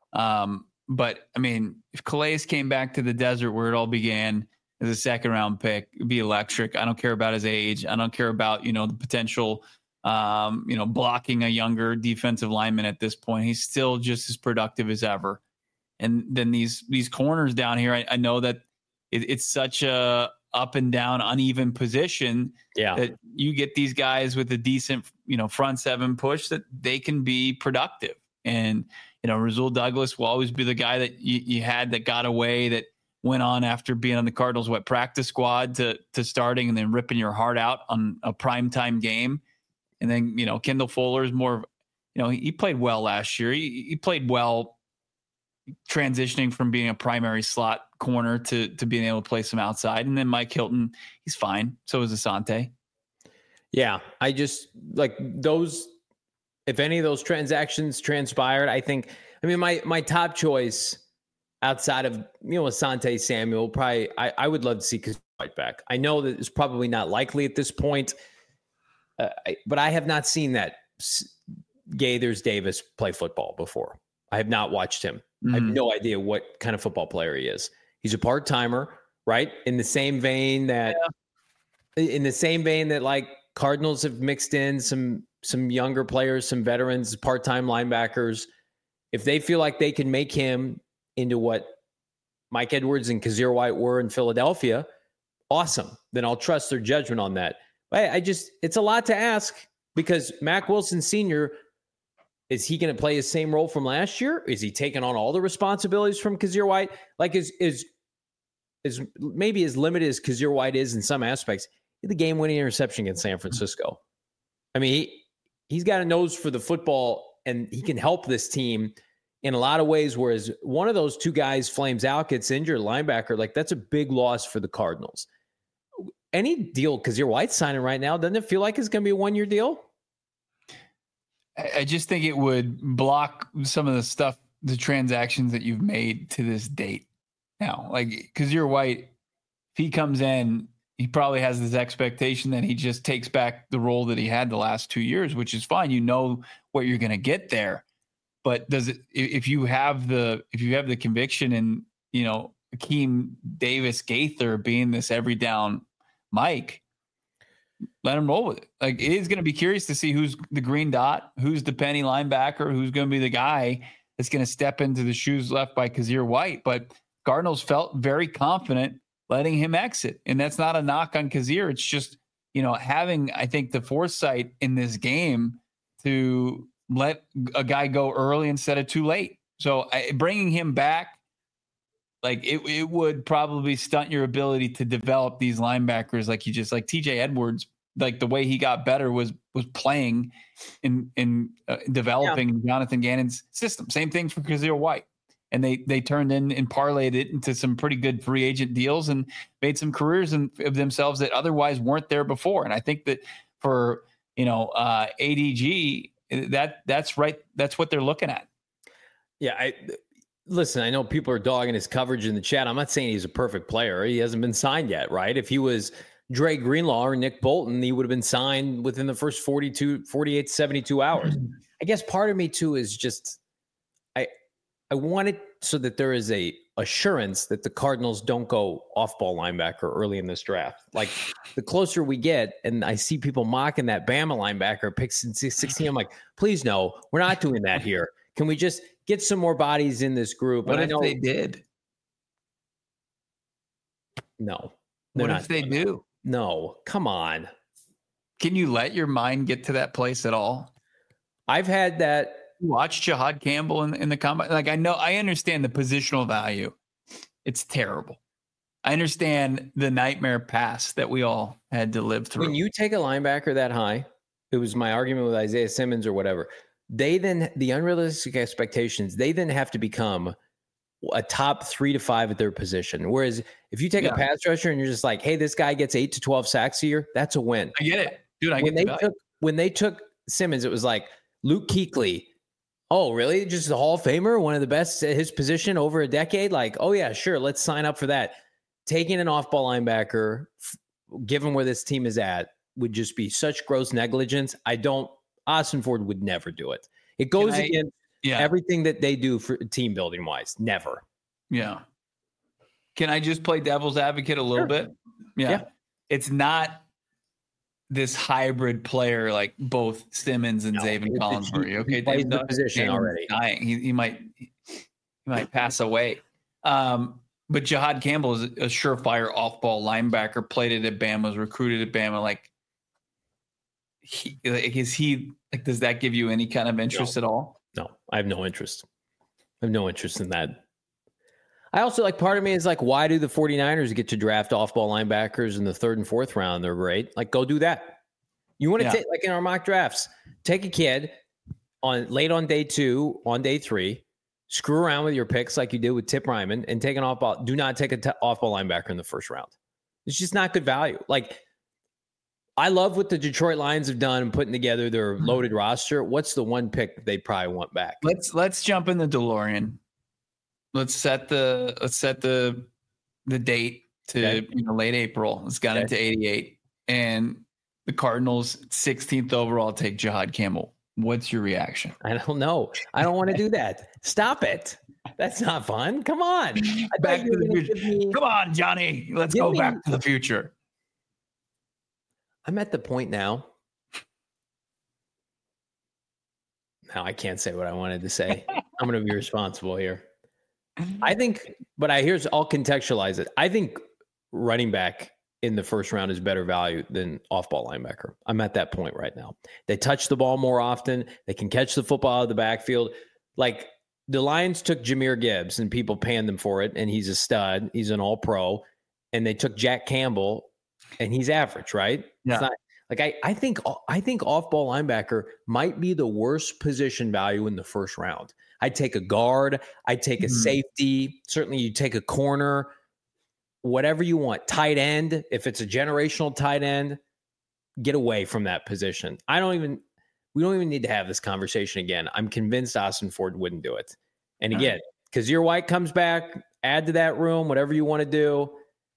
Um, but I mean, if Calais came back to the desert where it all began as a second round pick, it'd be electric. I don't care about his age. I don't care about, you know, the potential, um, you know, blocking a younger defensive lineman at this point. He's still just as productive as ever. And then these these corners down here, I, I know that it, it's such a up and down, uneven position yeah. that you get these guys with a decent, you know, front seven push that they can be productive. And, you know, Rasul Douglas will always be the guy that you, you had that got away, that went on after being on the Cardinals, what, practice squad to to starting and then ripping your heart out on a primetime game. And then, you know, Kendall Fuller is more, you know, he, he played well last year. He, he played well transitioning from being a primary slot corner to to being able to play some outside. And then Mike Hilton, he's fine. So is Asante. Yeah, I just like those. If any of those transactions transpired, I think, I mean, my my top choice outside of, you know, Asante Samuel, probably, I, I would love to see Kazir White back. I know that it's probably not likely at this point, uh, I, but I have not seen that Gaithers Davis play football before. I have not watched him. Mm-hmm. I have no idea what kind of football player he is. He's a part-timer, right? In the same vein that, yeah. in the same vein that like Cardinals have mixed in some some younger players, some veterans, part-time linebackers. If they feel like they can make him into what Mike Edwards and Kazir White were in Philadelphia, awesome. Then I'll trust their judgment on that. But I just, it's a lot to ask because Mack Wilson Senior, is he going to play his same role from last year? Is he taking on all the responsibilities from Kazir White? Like is, is, is maybe as limited as Kazir White is in some aspects, the game-winning interception against San Francisco. I mean, he, he's got a nose for the football and he can help this team in a lot of ways, whereas one of those two guys flames out, gets injured, linebacker, like that's a big loss for the Cardinals. Any deal Kazir White's signing right now, doesn't it feel like it's going to be a one-year deal? I just think it would block some of the stuff, the transactions that you've made to this date now. Like Kazir White, if he comes in, he probably has this expectation that he just takes back the role that he had the last two years, which is fine. You know what you're going to get there. But does it, if you have the, if you have the conviction in, you know, Akeem Davis Gaither being this every down Mike, let him roll with it. Like, it is going to be curious to see who's the green dot, who's the penny linebacker, who's going to be the guy that's going to step into the shoes left by Kazir White. But Cardinals felt very confident letting him exit. And that's not a knock on Kazir. It's just, you know, having, I think, the foresight in this game to let a guy go early instead of too late. So I, bringing him back, like it, it would probably stunt your ability to develop these linebackers. Like you just like T J Edwards, like the way he got better was, was playing in, in uh, developing yeah. Jonathan Gannon's system. Same thing for Kazir White. And they, they turned in and parlayed it into some pretty good free agent deals and made some careers in, of themselves that otherwise weren't there before. And I think that for, you know, uh, A D G, that that's right. That's what they're looking at. Yeah. I, Listen, I know people are dogging his coverage in the chat. I'm not saying he's a perfect player. He hasn't been signed yet, right? If he was Dre Greenlaw or Nick Bolton, he would have been signed within the first forty-two, forty-eight, seventy-two hours. I guess part of me too is just, I I want it so that there is a assurance that the Cardinals don't go off-ball linebacker early in this draft. Like the closer we get, and I see people mocking that Bama linebacker pick sixteen, I'm like, please no, we're not doing that here. Can we just get some more bodies in this group? What and if I know, they did? No. What if they do? No. Come on. Can you let your mind get to that place at all? I've had that. Watch Jahad Campbell in, in the combine. Like, I know, I understand the positional value. It's terrible. I understand the nightmare pass that we all had to live through. When you take a linebacker that high, it was my argument with Isaiah Simmons or whatever. They then, the unrealistic expectations, they then have to become a top three to five at their position. Whereas if you take yeah. a pass rusher and you're just like, hey, this guy gets eight to twelve sacks a year, that's a win. I get it. Dude, I when get they the took When they took Simmons, it was like Luke Kuechly. Oh, really? Just a Hall of Famer, one of the best at his position over a decade? Like, oh, yeah, sure, let's sign up for that. Taking an off-ball linebacker, given where this team is at, would just be such gross negligence. I don't Austin Ford would never do it. It goes I, against yeah. everything that they do for team building wise. Never. Yeah. Can I just play devil's advocate a little sure. bit? Yeah. yeah. It's not this hybrid player like both Simmons and no, Zaven Collins were. Okay, he plays the position already. Dying. He, he might he might pass away. Um, but Jahad Campbell is a surefire off-ball linebacker. Played at Bama, was recruited at Bama. Like, he, like is he like? Does that give you any kind of interest no. at all? No, I have no interest. I have no interest in that. I also like part of me is like, why do the 49ers get to draft off-ball linebackers in the third and fourth round? They're great. Like, go do that. You want to yeah. take, like in our mock drafts, take a kid on late on day two, on day three, screw around with your picks like you did with Tip Ryman, and take an off-ball. Do not take an t- off-ball linebacker in the first round. It's just not good value. Like, I love what the Detroit Lions have done and putting together their loaded roster. What's the one pick that they probably want back? Let's let's jump in the DeLorean. Let's set the let's set the the date to okay. you know, late April. It's got okay. into eighty-eight, and the Cardinals sixteenth overall take Jahad Campbell. What's your reaction? I don't know. I don't want to do that. Stop it. That's not fun. Come on. Back to the future. Me, Come on, Johnny. Let's go me, back to the future. I'm at the point now. Now I can't say what I wanted to say. I'm going to be responsible here. I think, but I here's I'll contextualize it. I think running back in the first round is better value than off-ball linebacker. I'm at that point right now. They touch the ball more often. They can catch the football out of the backfield. Like the Lions took Jahmyr Gibbs and people panned him for it, and he's a stud. He's an all-pro. And they took Jack Campbell, and he's average, right? Yeah. It's not, like I, I think I think off-ball linebacker might be the worst position value in the first round. I'd take a guard. I'd take a mm-hmm. safety. Certainly you take a corner, whatever you want. Tight end. If it's a generational tight end, get away from that position. I don't even, we don't even need to have this conversation again. I'm convinced Austin Ford wouldn't do it. And again, because your White comes back, add to that room, whatever you want to do.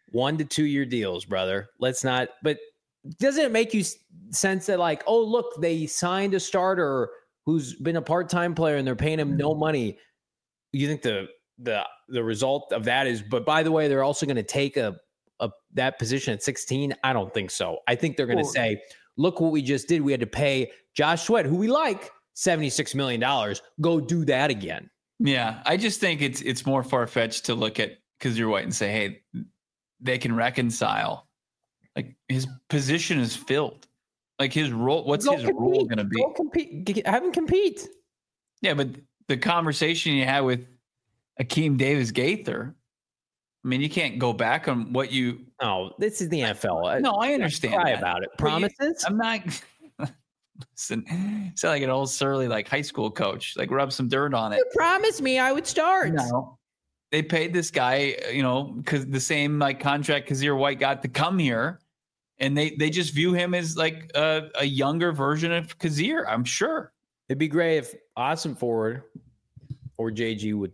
one to two year deals, brother. Let's not, but doesn't it make you sense that like, oh, look, they signed a starter who's been a part-time player and they're paying him no money. You think the, the, the result of that is, but by the way, they're also going to take a, a, that position at sixteen. I don't think so. I think they're going to say, look what we just did. We had to pay Josh Sweat, who we like, seventy-six million dollars. Go do that again. Yeah. I just think it's, it's more far-fetched to look at Kyzir White and say, hey, they can reconcile. Like his position is filled. Like his role, what's Go his compete. role going to be? Go compete. Have him compete. Yeah, but the conversation you had with Akeem Davis Gaither, I mean, you can't go back on what you. Oh, this is the N F L. No, I understand. Cry that. about it. But you- Promises? I'm not. Listen, sound like an old surly like high school coach. Like rub some dirt on it. You promised me I would start. No, they paid this guy, you know, because the same like contract Kyzir White got to come here, and they they just view him as like a, a younger version of Kyzir. I'm sure. It'd be great if Awesome Forward or J G would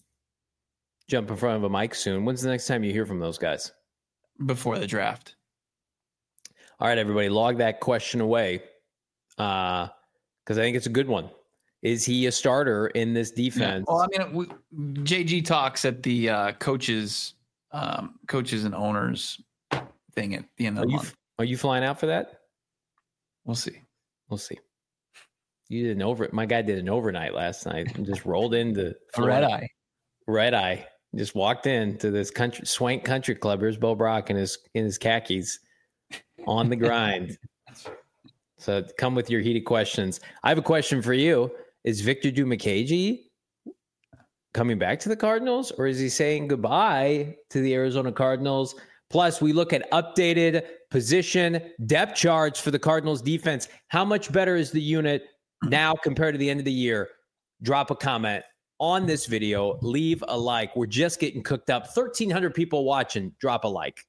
jump in front of a mic soon. When's the next time you hear from those guys? Before the draft. All right, everybody, log that question away because uh, I think it's a good one. Is he a starter in this defense? Yeah. Well, I mean, we, J G talks at the uh, coaches, um, coaches and owners thing at the end of are the you, month. Are you flying out for that? We'll see. We'll see. You did an over. My guy did an overnight last night and just rolled into Red eye. Red eye. Just walked into this country swank country club. Here's Bo Brock in his in his khakis on the grind. So come with your heated questions. I have a question for you. Is Victor Dimukeje coming back to the Cardinals, or is he saying goodbye to the Arizona Cardinals? Plus, we look at updated position depth charts for the Cardinals defense. How much better is the unit now compared to the end of the year? Drop a comment on this video. Leave a like. We're just getting cooked up. thirteen hundred people watching. Drop a like.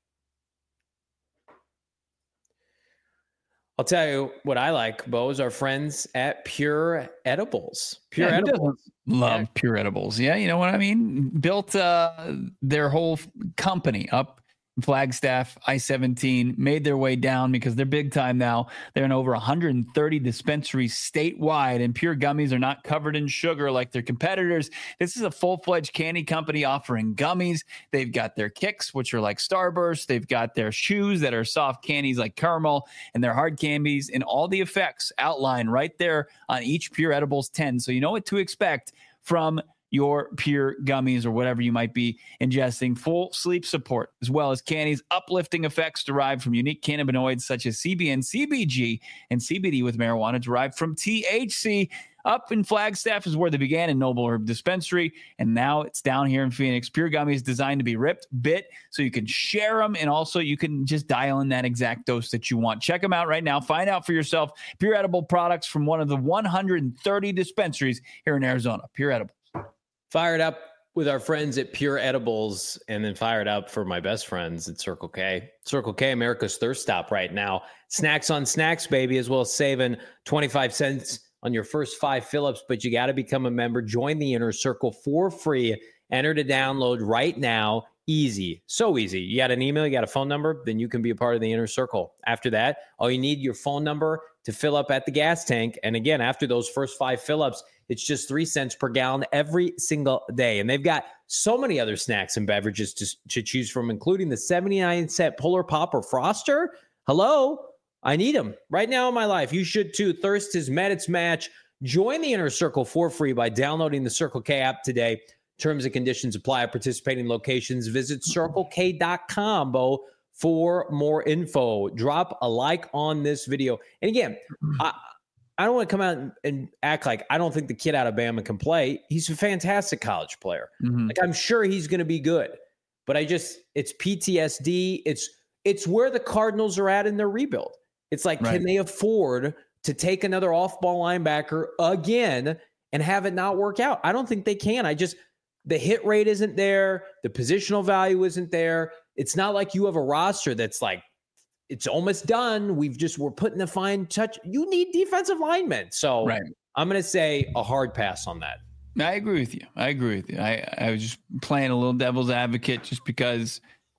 I'll tell you what I like, Bo, is our friends at Pure Edibles. Pure yeah, Edibles. Love Yeah. Pure Edibles. Yeah, you know what I mean? Built uh, their whole company up in Flagstaff, I seventeen, made their way down because they're big time now. They're in over one hundred thirty dispensaries statewide, and Pure Gummies are not covered in sugar like their competitors. This is a full-fledged candy company offering gummies. They've got their kicks, which are like Starburst. They've got their chews that are soft candies like caramel, and their hard candies, and all the effects outlined right there on each Pure Edibles ten. So you know what to expect from your Pure Gummies or whatever you might be ingesting. Full sleep support, as well as candies, uplifting effects derived from unique cannabinoids such as C B N, C B G, and C B D with marijuana derived from T H C. Up in Flagstaff is where they began in Noble Herb Dispensary, and now it's down here in Phoenix. Pure Gummies designed to be ripped, bit, so you can share them, and also you can just dial in that exact dose that you want. Check them out right now. Find out for yourself. Pure Edible products from one of the one hundred thirty dispensaries here in Arizona. Pure Edible. Fired up with our friends at Pure Edibles, and then fired up for my best friends at Circle K. Circle K, America's thirst stop right now. Snacks on snacks, baby, as well as saving twenty-five cents on your first five fill-ups, but you got to become a member. Join the Inner Circle for free. Enter to download right now. Easy. So easy. You got an email, you got a phone number, then you can be a part of the Inner Circle. After that, all you need your phone number to fill up at the gas tank. And again, after those first five fill-ups, it's just three cents per gallon every single day. And they've got so many other snacks and beverages to, to choose from, including the seventy-nine cent Polar Pop or Froster. Hello? I need them right now in my life. You should too. Thirst has met its match. Join the Inner Circle for free by downloading the Circle K app today. Terms and conditions apply at participating locations. Visit circle k dot com, Bo, for more info. Drop a like on this video. And again, I, I don't want to come out and, and act like I don't think the kid out of Bama can play. He's a fantastic college player. Mm-hmm. Like I'm sure he's going to be good. But I just, it's P T S D. It's it's where the Cardinals are at in their rebuild. It's like, Right. Can they afford to take another off-ball linebacker again and have it not work out? I don't think they can. I just, the hit rate isn't there. The positional value isn't there. It's not like you have a roster that's like, it's almost done. We've just, we're putting the fine touch. You need defensive linemen. So Right. I'm going to say a hard pass on that. I agree with you. I agree with you. I, I was just playing a little devil's advocate just because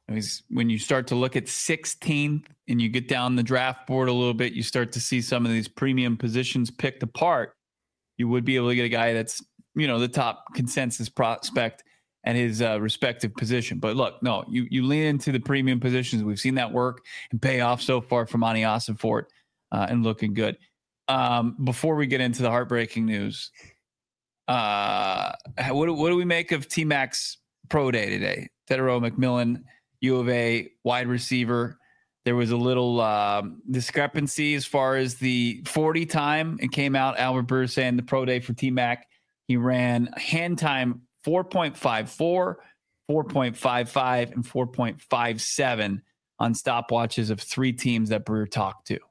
He's, when you start to look at sixteenth and you get down the draft board a little bit, you start to see some of these premium positions picked apart. You would be able to get a guy that's, you know, the top consensus prospect at his uh, respective position. But look, no, you you lean into the premium positions. We've seen that work and pay off so far for Monty Ossenfort uh, and looking good. Um, before we get into the heartbreaking news, uh, what, what do we make of T-Mac's pro day today? Tetairoa McMillan, U of A wide receiver. There was a little um, discrepancy as far as the forty time. It came out, Albert Burr saying the pro day for T-Mac, he ran hand time four point five four, four point five five, and four point five seven on stopwatches of three teams that Brewer talked to.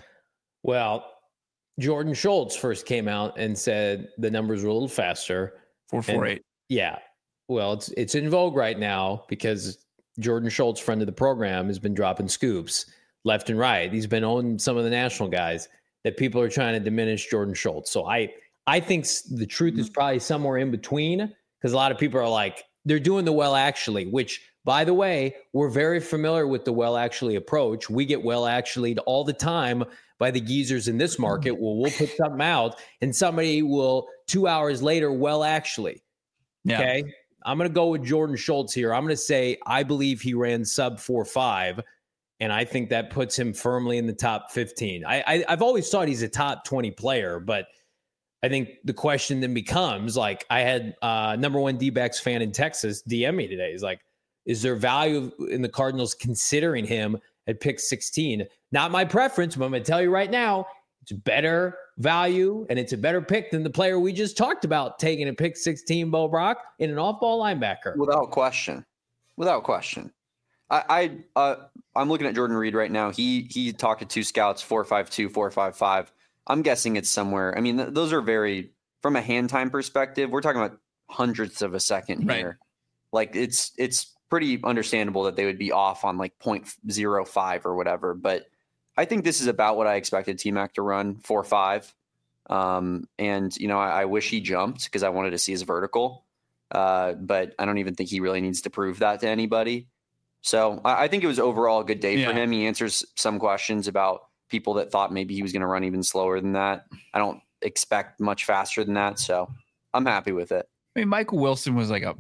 Well, Jordan Schultz first came out and said the numbers were a little faster. four forty-eight. Yeah. Well, it's it's in vogue right now because Jordan Schultz, friend of the program, has been dropping scoops left and right. He's been on some of the national guys that people are trying to diminish Jordan Schultz. So I I think the truth is probably somewhere in between, because a lot of people are like, they're doing the well actually, which, by the way, we're very familiar with the well actually approach. We get well actually all the time by the geezers in this market. Well, we'll put something out and somebody will two hours later, well, actually, yeah. Okay. I'm going to go with Jordan Schultz here. I'm going to say I believe he ran sub four five, and I think that puts him firmly in the top fifteen. I, I, I've always thought he's a top twenty player, but I think the question then becomes, like, I had uh, number one D-backs fan in Texas D M me today. He's like, is there value in the Cardinals considering him at pick sixteen? Not my preference, but I'm going to tell you right now, it's better value, and it's a better pick than the player we just talked about taking a pick sixteen, Bo Brock, in an off-ball linebacker. Without question. Without question. I, I uh, I'm looking at Jordan Reed right now. He he talked to two scouts, four five two, four five five. I'm guessing it's somewhere. I mean, th- those are very, from a hand time perspective, we're talking about hundredths of a second here. Right. Like it's it's pretty understandable that they would be off on like zero point zero five or whatever, but I think this is about what I expected T-Mac to run, four five. Um, and, you know, I, I wish he jumped because I wanted to see his vertical. Uh, but I don't even think he really needs to prove that to anybody. So I, I think it was overall a good day yeah. for him. He answers some questions about people that thought maybe he was going to run even slower than that. I don't expect much faster than that. So I'm happy with it. I mean, Michael Wilson was like a,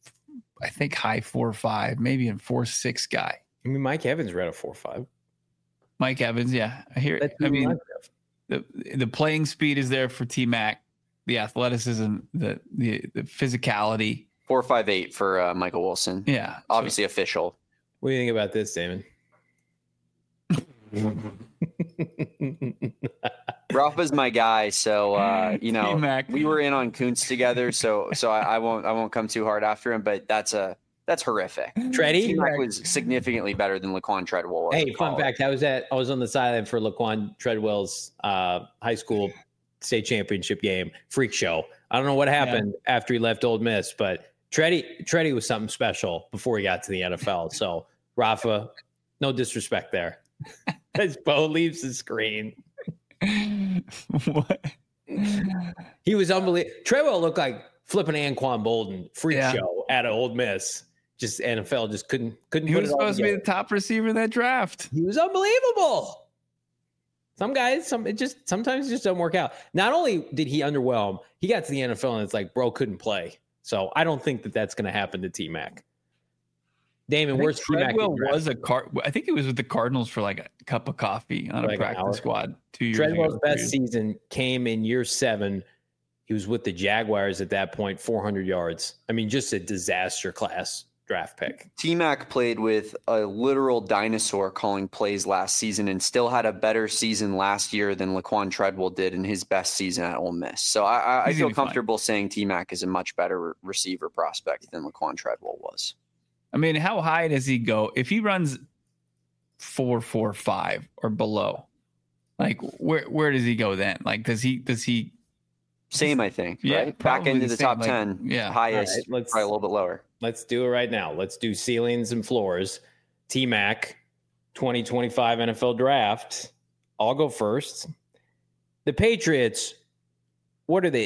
I think, high four five, maybe a four six guy. I mean, Mike Evans ran a four five. Mike Evans, yeah, I hear it. I mean, the the playing speed is there for T-Mac, the athleticism, the the, the physicality. Four five eight for uh, Michael Wilson. Yeah, obviously so. Official. What do you think about this, Damon? Rafa's my guy, so uh, you know T-Mac. We were in on Kuntz together, so so I, I won't I won't come too hard after him, but that's a. That's horrific. Tready T-Mac was significantly better than Laquan Treadwell. Hey, fun fact: I was at I was on the sideline for Laquan Treadwell's uh, high school state championship game, freak show. I don't know what happened yeah. after he left Ole Miss, but Tready Tready was something special before he got to the N F L. So Rafa, no disrespect there. As Bo leaves the screen, what? He was unbelievable. Treadwell looked like flipping Anquan Bolden freak yeah. show at Ole Miss. Just N F L just couldn't couldn't. He put was it all supposed together. to be the top receiver in that draft. He was unbelievable. Some guys, some it just sometimes it just doesn't work out. Not only did he underwhelm, he got to the N F L and it's like, bro, couldn't play. So I don't think that that's going to happen to T-Mac. Damon, where's T-Mac? Treadwell was a car. I think he was with the Cardinals for like a cup of coffee on like a practice squad two years Treadwell's ago. best season came in year seven. He was with the Jaguars at that point, four hundred yards. I mean, just a disaster class draft pick. T-Mac played with a literal dinosaur calling plays last season and still had a better season last year than Laquan Treadwell did in his best season at Ole Miss. So I, I feel comfortable fine. saying T-Mac is a much better receiver prospect than Laquan Treadwell was. I mean, how high does he go? If he runs four, four, five or below, like where, where does he go then? Like, does he, does he, Same, I think. Yeah, right? Back into the, the top like, ten. Yeah, highest. Right, let's, probably a little bit lower. Let's do it right now. Let's do ceilings and floors. T-Mac, twenty twenty-five N F L draft. I'll go first. The Patriots. What are they?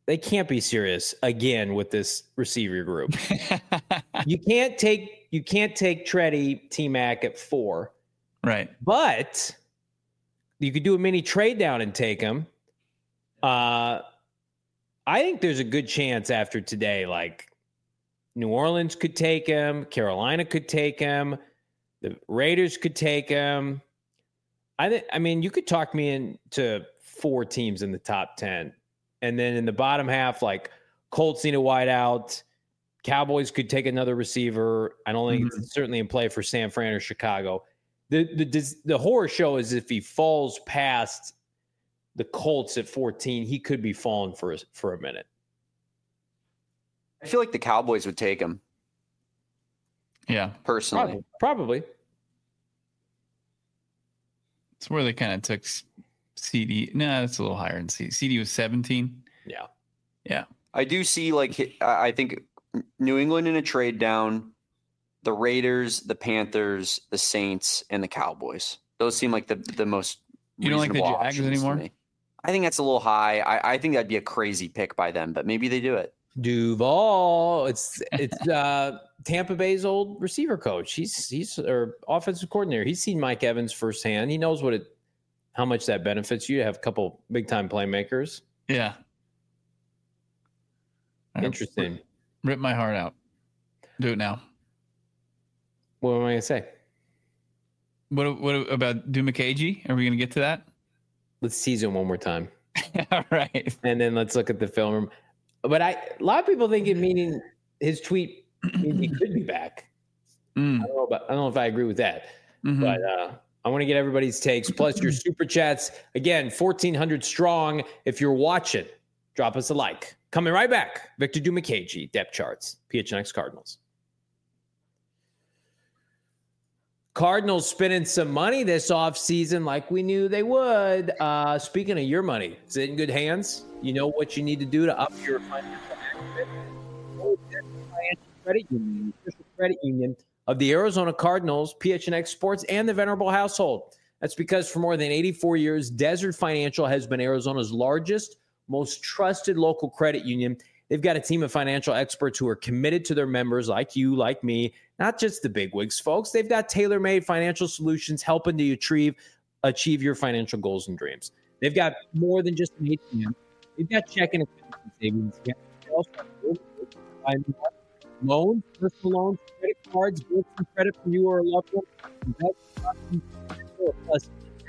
they can't be serious again with this receiver group. you can't take you can't take Treddy, T-Mac at four. Right. But you could do a mini trade down and take him. Uh, I think there's a good chance after today, like New Orleans could take him, Carolina could take him, the Raiders could take him. I think. I mean, you could talk me into four teams in the top ten. And then in the bottom half, like Colts need a wideout. Cowboys could take another receiver. I don't think mm-hmm. it's certainly in play for San Fran or Chicago. The, the the horror show is if he falls past the Colts at fourteen, he could be falling for a, for a minute. I feel like the Cowboys would take him. Yeah. Personally. Probably. Probably. It's where they kind of took C D. No, that's a little higher than C D. C D was seventeen. Yeah. Yeah. I do see, like, I think New England in a trade down, the Raiders, the Panthers, the Saints, and the Cowboys. Those seem like the, the most You don't like the Jags anymore? I think that's a little high. I, I think that'd be a crazy pick by them, but maybe they do it. Duval. It's it's uh, Tampa Bay's old receiver coach. He's he's or offensive coordinator. He's seen Mike Evans firsthand. He knows what it how much that benefits you to have a couple big time playmakers. Yeah. Interesting. Rip my heart out. Do it now. What am I gonna say? What what about Dumakaji? Are we gonna get to that? Let's tease him one more time. All right. And then let's look at the film. But I, a lot of people think it meaning his tweet means he could be back. Mm. I don't know about, I don't know if I agree with that. Mm-hmm. But uh, I want to get everybody's takes. Plus your super chats. Again, fourteen hundred strong. If you're watching, drop us a like. Coming right back. Victor Dumakaji, depth charts, P H N X Cardinals. Cardinals spending some money this offseason like we knew they would. Uh, speaking of your money, is it in good hands? You know what you need to do to up your financial Financial Credit Union, the official credit union of the Arizona Cardinals, P H N X Sports, and the Venerable household. That's because for more than eighty-four years, Desert Financial has been Arizona's largest, most trusted local credit union. They've got a team of financial experts who are committed to their members like you, like me, not just the bigwigs, folks. They've got tailor-made financial solutions helping to achieve, achieve your financial goals and dreams. They've got more than just an A T M. They've got checking accounts and savings accounts. They also have loans, personal loans, credit cards, bills for credit for you or a loved one. Plus,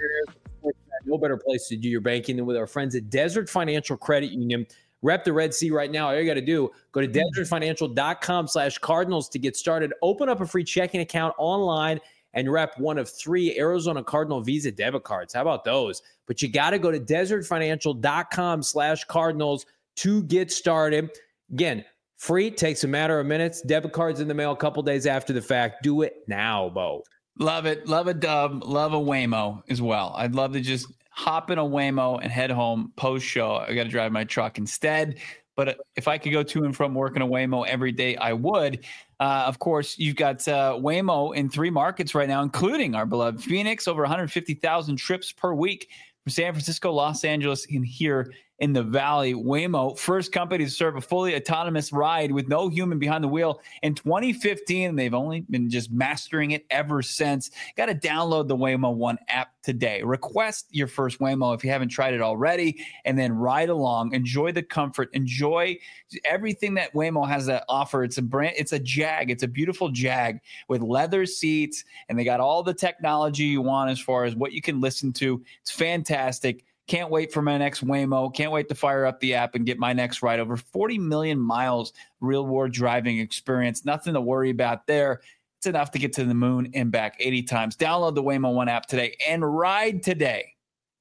no better place to do your banking than with our friends at Desert Financial Credit Union. Rep the Red Sea right now. All you got to do, go to desertfinancial.com slash Cardinals to get started. Open up a free checking account online and rep one of three Arizona Cardinal Visa debit cards. How about those? But you got to go to desertfinancial.com slash Cardinals to get started. Again, free, takes a matter of minutes. Debit cards in the mail a couple days after the fact. Do it now, Bo. Love it. Love a dub. Love a Waymo as well. I'd love to just hop in a Waymo and head home post show. I got to drive my truck instead. But if I could go to and from work in a Waymo every day, I would. Uh, of course, you've got uh, Waymo in three markets right now, including our beloved Phoenix, over one hundred fifty thousand trips per week from San Francisco, Los Angeles, and here in the Valley. Waymo, first company to serve a fully autonomous ride with no human behind the wheel in twenty fifteen. And they've only been just mastering it ever since. Got to download the Waymo One app today. Request your first Waymo if you haven't tried it already, and then ride along. Enjoy the comfort. Enjoy everything that Waymo has to offer. It's a brand. It's a Jag. It's a beautiful Jag with leather seats, and they got all the technology you want as far as what you can listen to. It's fantastic. Can't wait for my next Waymo. Can't wait to fire up the app and get my next ride. Over forty million miles real world driving experience. Nothing to worry about there. It's enough to get to the moon and back eighty times. Download the Waymo One app today and ride today.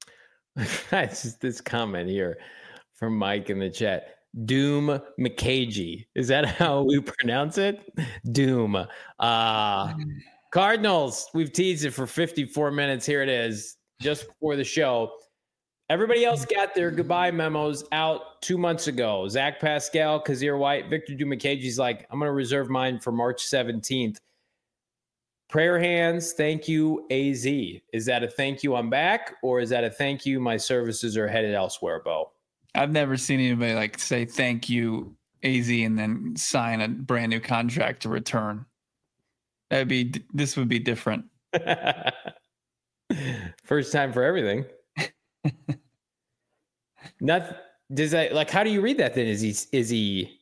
That's just this comment here from Mike in the chat. Doom McKagy. Is that how we pronounce it? Doom. Uh, Cardinals. We've teased it for fifty-four minutes. Here it is, just before the show. Everybody else got their goodbye memos out two months ago. Zach Pascal, Kazir White, Victor Dumakaji's like, I'm going to reserve mine for March seventeenth. Prayer hands, thank you, A Z. Is that a thank you, I'm back? Or is that a thank you, my services are headed elsewhere, Bo? I've never seen anybody like say thank you, A Z, and then sign a brand new contract to return. That'd be this would be different. First time for everything. Not does that like how do you read that then? Is he is he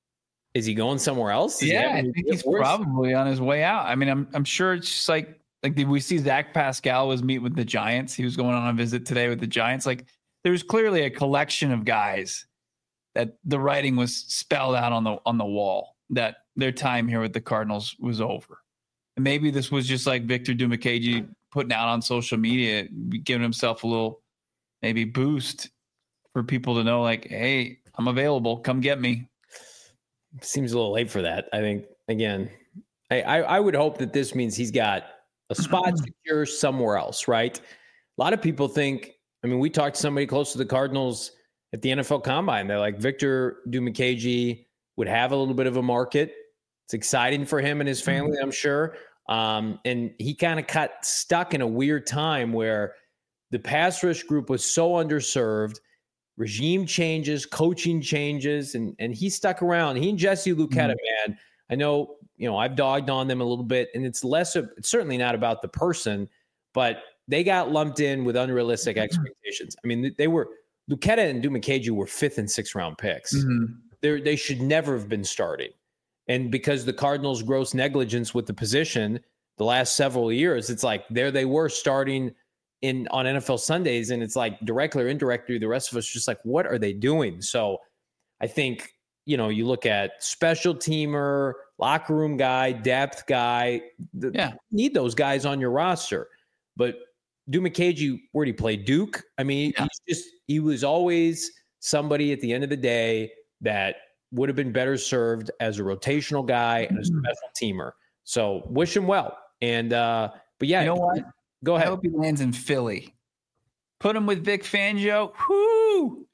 is he going somewhere else? Does yeah, I think he's worse? probably on his way out. I mean, I'm I'm sure it's just like like did we see Zach Pascal was meet with the Giants? He was going on a visit today with the Giants. Like there's clearly a collection of guys that the writing was spelled out on the on the wall that their time here with the Cardinals was over. And maybe this was just like Victor Dimukeje putting out on social media, giving himself a little maybe boost for people to know, like, hey, I'm available. Come get me. Seems a little late for that. I think, again, I, I, I would hope that this means he's got a spot secure somewhere else, right? A lot of people think, I mean, we talked to somebody close to the Cardinals at the N F L Combine. They're like, Victor Dimukeje would have a little bit of a market. It's exciting for him and his family, I'm sure. Um, and he kind of got stuck in a weird time where the pass rush group was so underserved, regime changes, coaching changes, and and he stuck around. He and Jesse Luketa, mm-hmm. man, I know, you know, I've dogged on them a little bit, and it's less of, it's certainly not about the person, but they got lumped in with unrealistic mm-hmm. expectations. I mean, they were, Luketa and Dimukeje were fifth and sixth round picks. Mm-hmm. They they should never have been starting. And because the Cardinals' gross negligence with the position the last several years, it's like there they were starting in on N F L Sundays, and it's like directly or indirectly, the rest of us just like, what are they doing? So I think, you know, you look at special teamer, locker room guy, depth guy, the, yeah. you need those guys on your roster. But Dimukeje, where did he play? Duke? I mean, yeah. he's just he was always somebody at the end of the day that would have been better served as a rotational guy and a special teamer. So wish him well. And uh, but yeah, you know what? Go ahead. I hope he lands in Philly. Put him with Vic Fangio. Whoo!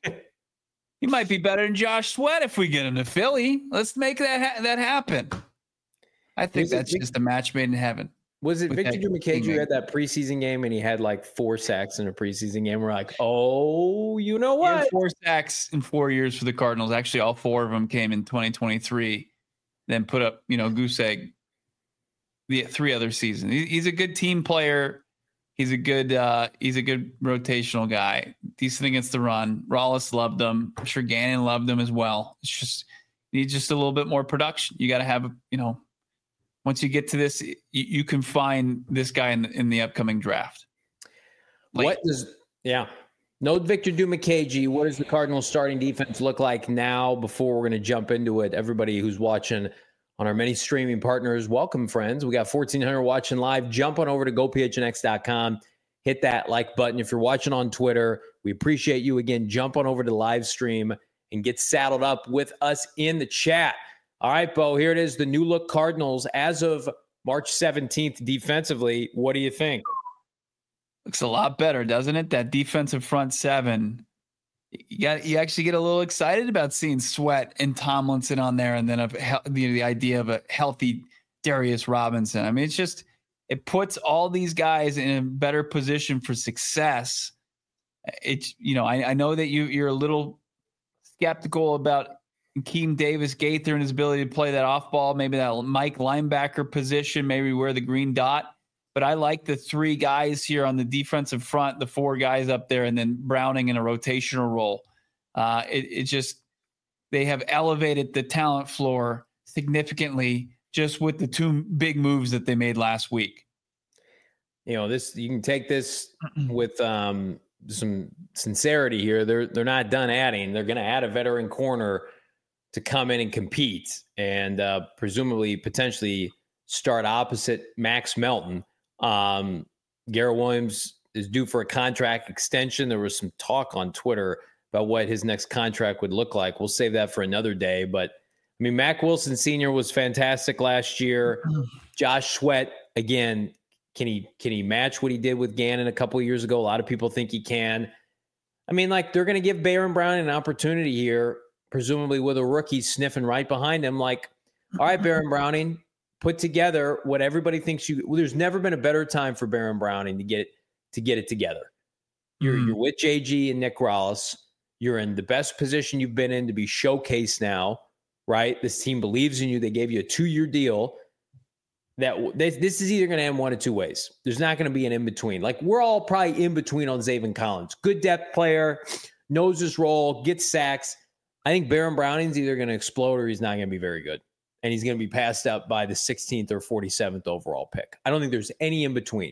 He might be better than Josh Sweat if we get him to Philly. Let's make that ha- that happen. I think was that's Vic- just a match made in heaven. Was it Victor Dimukeje who had that preseason game and he had like four sacks in a preseason game? We're like, oh, you know what? Four sacks in four years for the Cardinals. Actually, all four of them came in twenty twenty-three. Then put up, you know, goose egg the three other seasons. He's a good team player. He's a good uh, he's a good rotational guy. Decent against the run. Rollis loved him. I'm sure Gannon loved him as well. It's just needs just a little bit more production. You got to have, you know, once you get to this, you, you can find this guy in the, in the upcoming draft. Late. What does yeah? No Victor Dimukeje. What does the Cardinals starting defense look like now? Before we're going to jump into it, everybody who's watching on our many streaming partners, welcome, friends. We got fourteen hundred watching live. Jump on over to go p h n x dot com. Hit that like button. If you're watching on Twitter, we appreciate you. Again, jump on over to live stream and get saddled up with us in the chat. All right, Bo, here it is. The new look Cardinals as of March seventeenth defensively. What do you think? Looks a lot better, doesn't it? That defensive front seven. You got you actually get a little excited about seeing Sweat and Tomlinson on there, and then of the, the idea of a healthy Darius Robinson. I mean, it's just it puts all these guys in a better position for success. It's you know I, I know that you you're a little skeptical about Keem Davis Gaither and his ability to play that off ball, maybe that Mike linebacker position, maybe wear the green dot. But I like the three guys here on the defensive front, the four guys up there, and then Browning in a rotational role. Uh, it, it just they have elevated the talent floor significantly just with the two big moves that they made last week. You know, this you can take this with um, some sincerity here. They're they're not done adding. They're going to add a veteran corner to come in and compete, and uh, presumably potentially start opposite Max Melton. Um, Garrett Williams is due for a contract extension. There was some talk on Twitter about what his next contract would look like. We'll save that for another day. But I mean, Mack Wilson Senior was fantastic last year. Josh Sweat, again, can he can he match what he did with Gannon a couple of years ago? A lot of people think he can. I mean, like they're going to give Baron Brown an opportunity here, presumably with a rookie sniffing right behind him. Like, all right, Baron Browning, put together what everybody thinks you. Well, there's never been a better time for Baron Browning to get it to get it together. You're mm. you're with J G and Nick Rollis. You're in the best position you've been in to be showcased now, right? This team believes in you. They gave you a two-year deal. That this, this is either going to end one of two ways. There's not going to be an in-between. Like, we're all probably in between on Zaven Collins. Good depth player, knows his role, gets sacks. I think Baron Browning's either going to explode or he's not going to be very good. And he's going to be passed up by the sixteenth or forty-seventh overall pick. I don't think there's any in-between.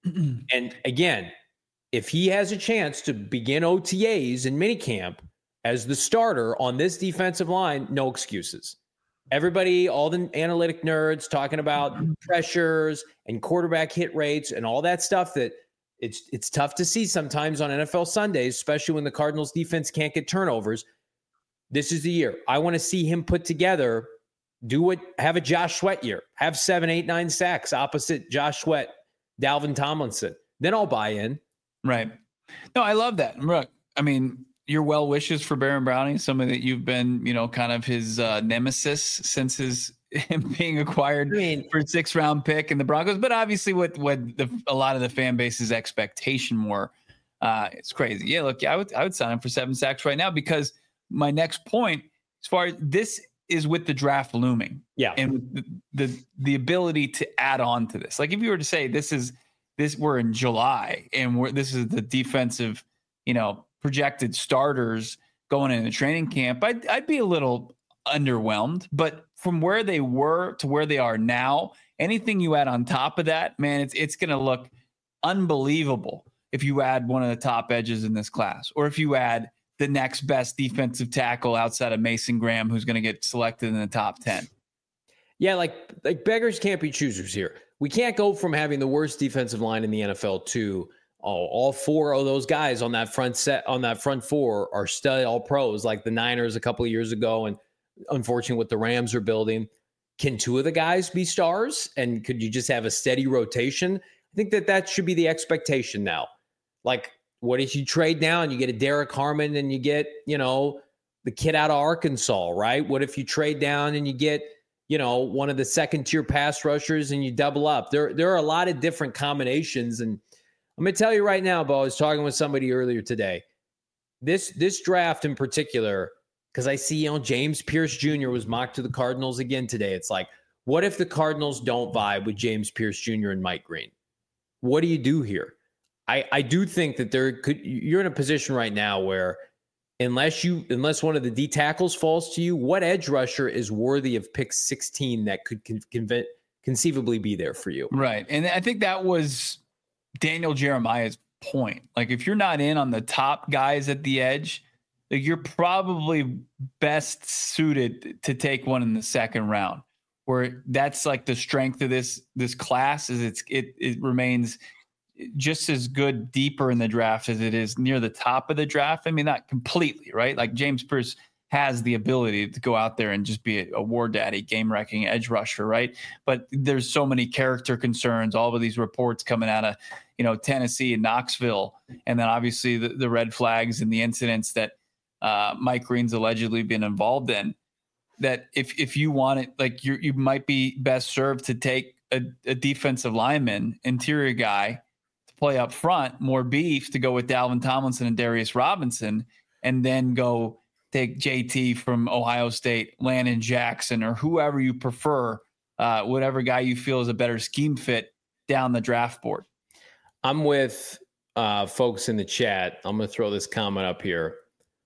And again, if he has a chance to begin O T As and minicamp as the starter on this defensive line, no excuses. Everybody, all the analytic nerds talking about pressures and quarterback hit rates and all that stuff that it's it's tough to see sometimes on N F L Sundays, especially when the Cardinals defense can't get turnovers. This is the year. I want to see him put together, do what, have a Josh Sweat year, have seven, eight, nine sacks opposite Josh Sweat, Dalvin Tomlinson. Then I'll buy in. Right. No, I love that. Look, I mean, your well wishes for Baron Browning, something that you've been, you know, kind of his uh, nemesis since his him being acquired I mean, for a six round pick in the Broncos. But obviously, what what the, a lot of the fan base's expectation were, uh, it's crazy. Yeah, look, I would I would sign him for seven sacks right now, because my next point, as far as this is with the draft looming, yeah, and the the, the ability to add on to this. Like, if you were to say this is this we're in July and we're this is the defensive, you know, projected starters going into training camp, I'd, I'd be a little underwhelmed. But from where they were to where they are now, anything you add on top of that, man, it's it's going to look unbelievable if you add one of the top edges in this class, or if you add the next best defensive tackle outside of Mason Graham, who's going to get selected in the top ten. Yeah, like like beggars can't be choosers here. We can't go from having the worst defensive line in the N F L to Oh, all four of those guys on that front set, on that front four are stud all pros, like the Niners a couple of years ago. And unfortunately, what the Rams are building. Can two of the guys be stars? And could you just have a steady rotation? I think that that should be the expectation now. Like, what if you trade down, you get a Derek Harmon and you get, you know, the kid out of Arkansas, right? What if you trade down and you get, you know, one of the second tier pass rushers and you double up? There, there are a lot of different combinations. And I'm going to tell you right now, Bo, I was talking with somebody earlier today. This this draft in particular, because I see, you know, James Pierce Junior was mocked to the Cardinals again today. It's like, what if the Cardinals don't vibe with James Pierce Junior and Mike Green? What do you do here? I, I do think that there could you're in a position right now where unless you unless one of the D tackles falls to you, what edge rusher is worthy of pick sixteen that could con- conv- conceivably be there for you? Right. And I think that was Daniel Jeremiah's point. Like, if you're not in on the top guys at the edge, like, you're probably best suited to take one in the second round, where that's like the strength of this this class is it's it it remains just as good deeper in the draft as it is near the top of the draft. I mean, not completely, right? Like, James Pierce has the ability to go out there and just be a, a war daddy, game-wrecking edge rusher, right? But there's so many character concerns, all of these reports coming out of, you know, Tennessee and Knoxville, and then obviously the, the red flags and the incidents that uh, Mike Green's allegedly been involved in, that if if you want it, like, you you might be best served to take a, a defensive lineman, interior guy, to play up front, more beef, to go with Dalvin Tomlinson and Darius Robinson, and then go take J T from Ohio State, Landon Jackson, or whoever you prefer, uh, whatever guy you feel is a better scheme fit down the draft board. I'm with uh, folks in the chat. I'm going to throw this comment up here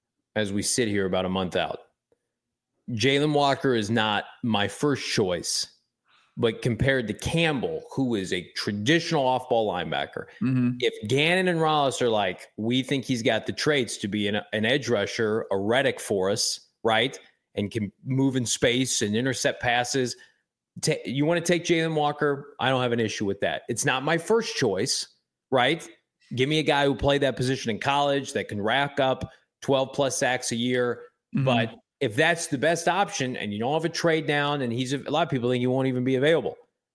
as we sit here about a month out. Jalen Walker is not my first choice, but compared to Campbell, who is a traditional off-ball linebacker, mm-hmm. if Gannon and Rollis are like, we think he's got the traits to be an, an edge rusher, a Reddick for us, right, and can move in space and intercept passes, T- you want to take Jalen Walker? I don't have an issue with that. It's not my first choice, right? Give me a guy who played that position in college that can rack up twelve plus sacks a year. Mm-hmm. But if that's the best option and you don't have a trade down and he's a lot of people think he won't even be available.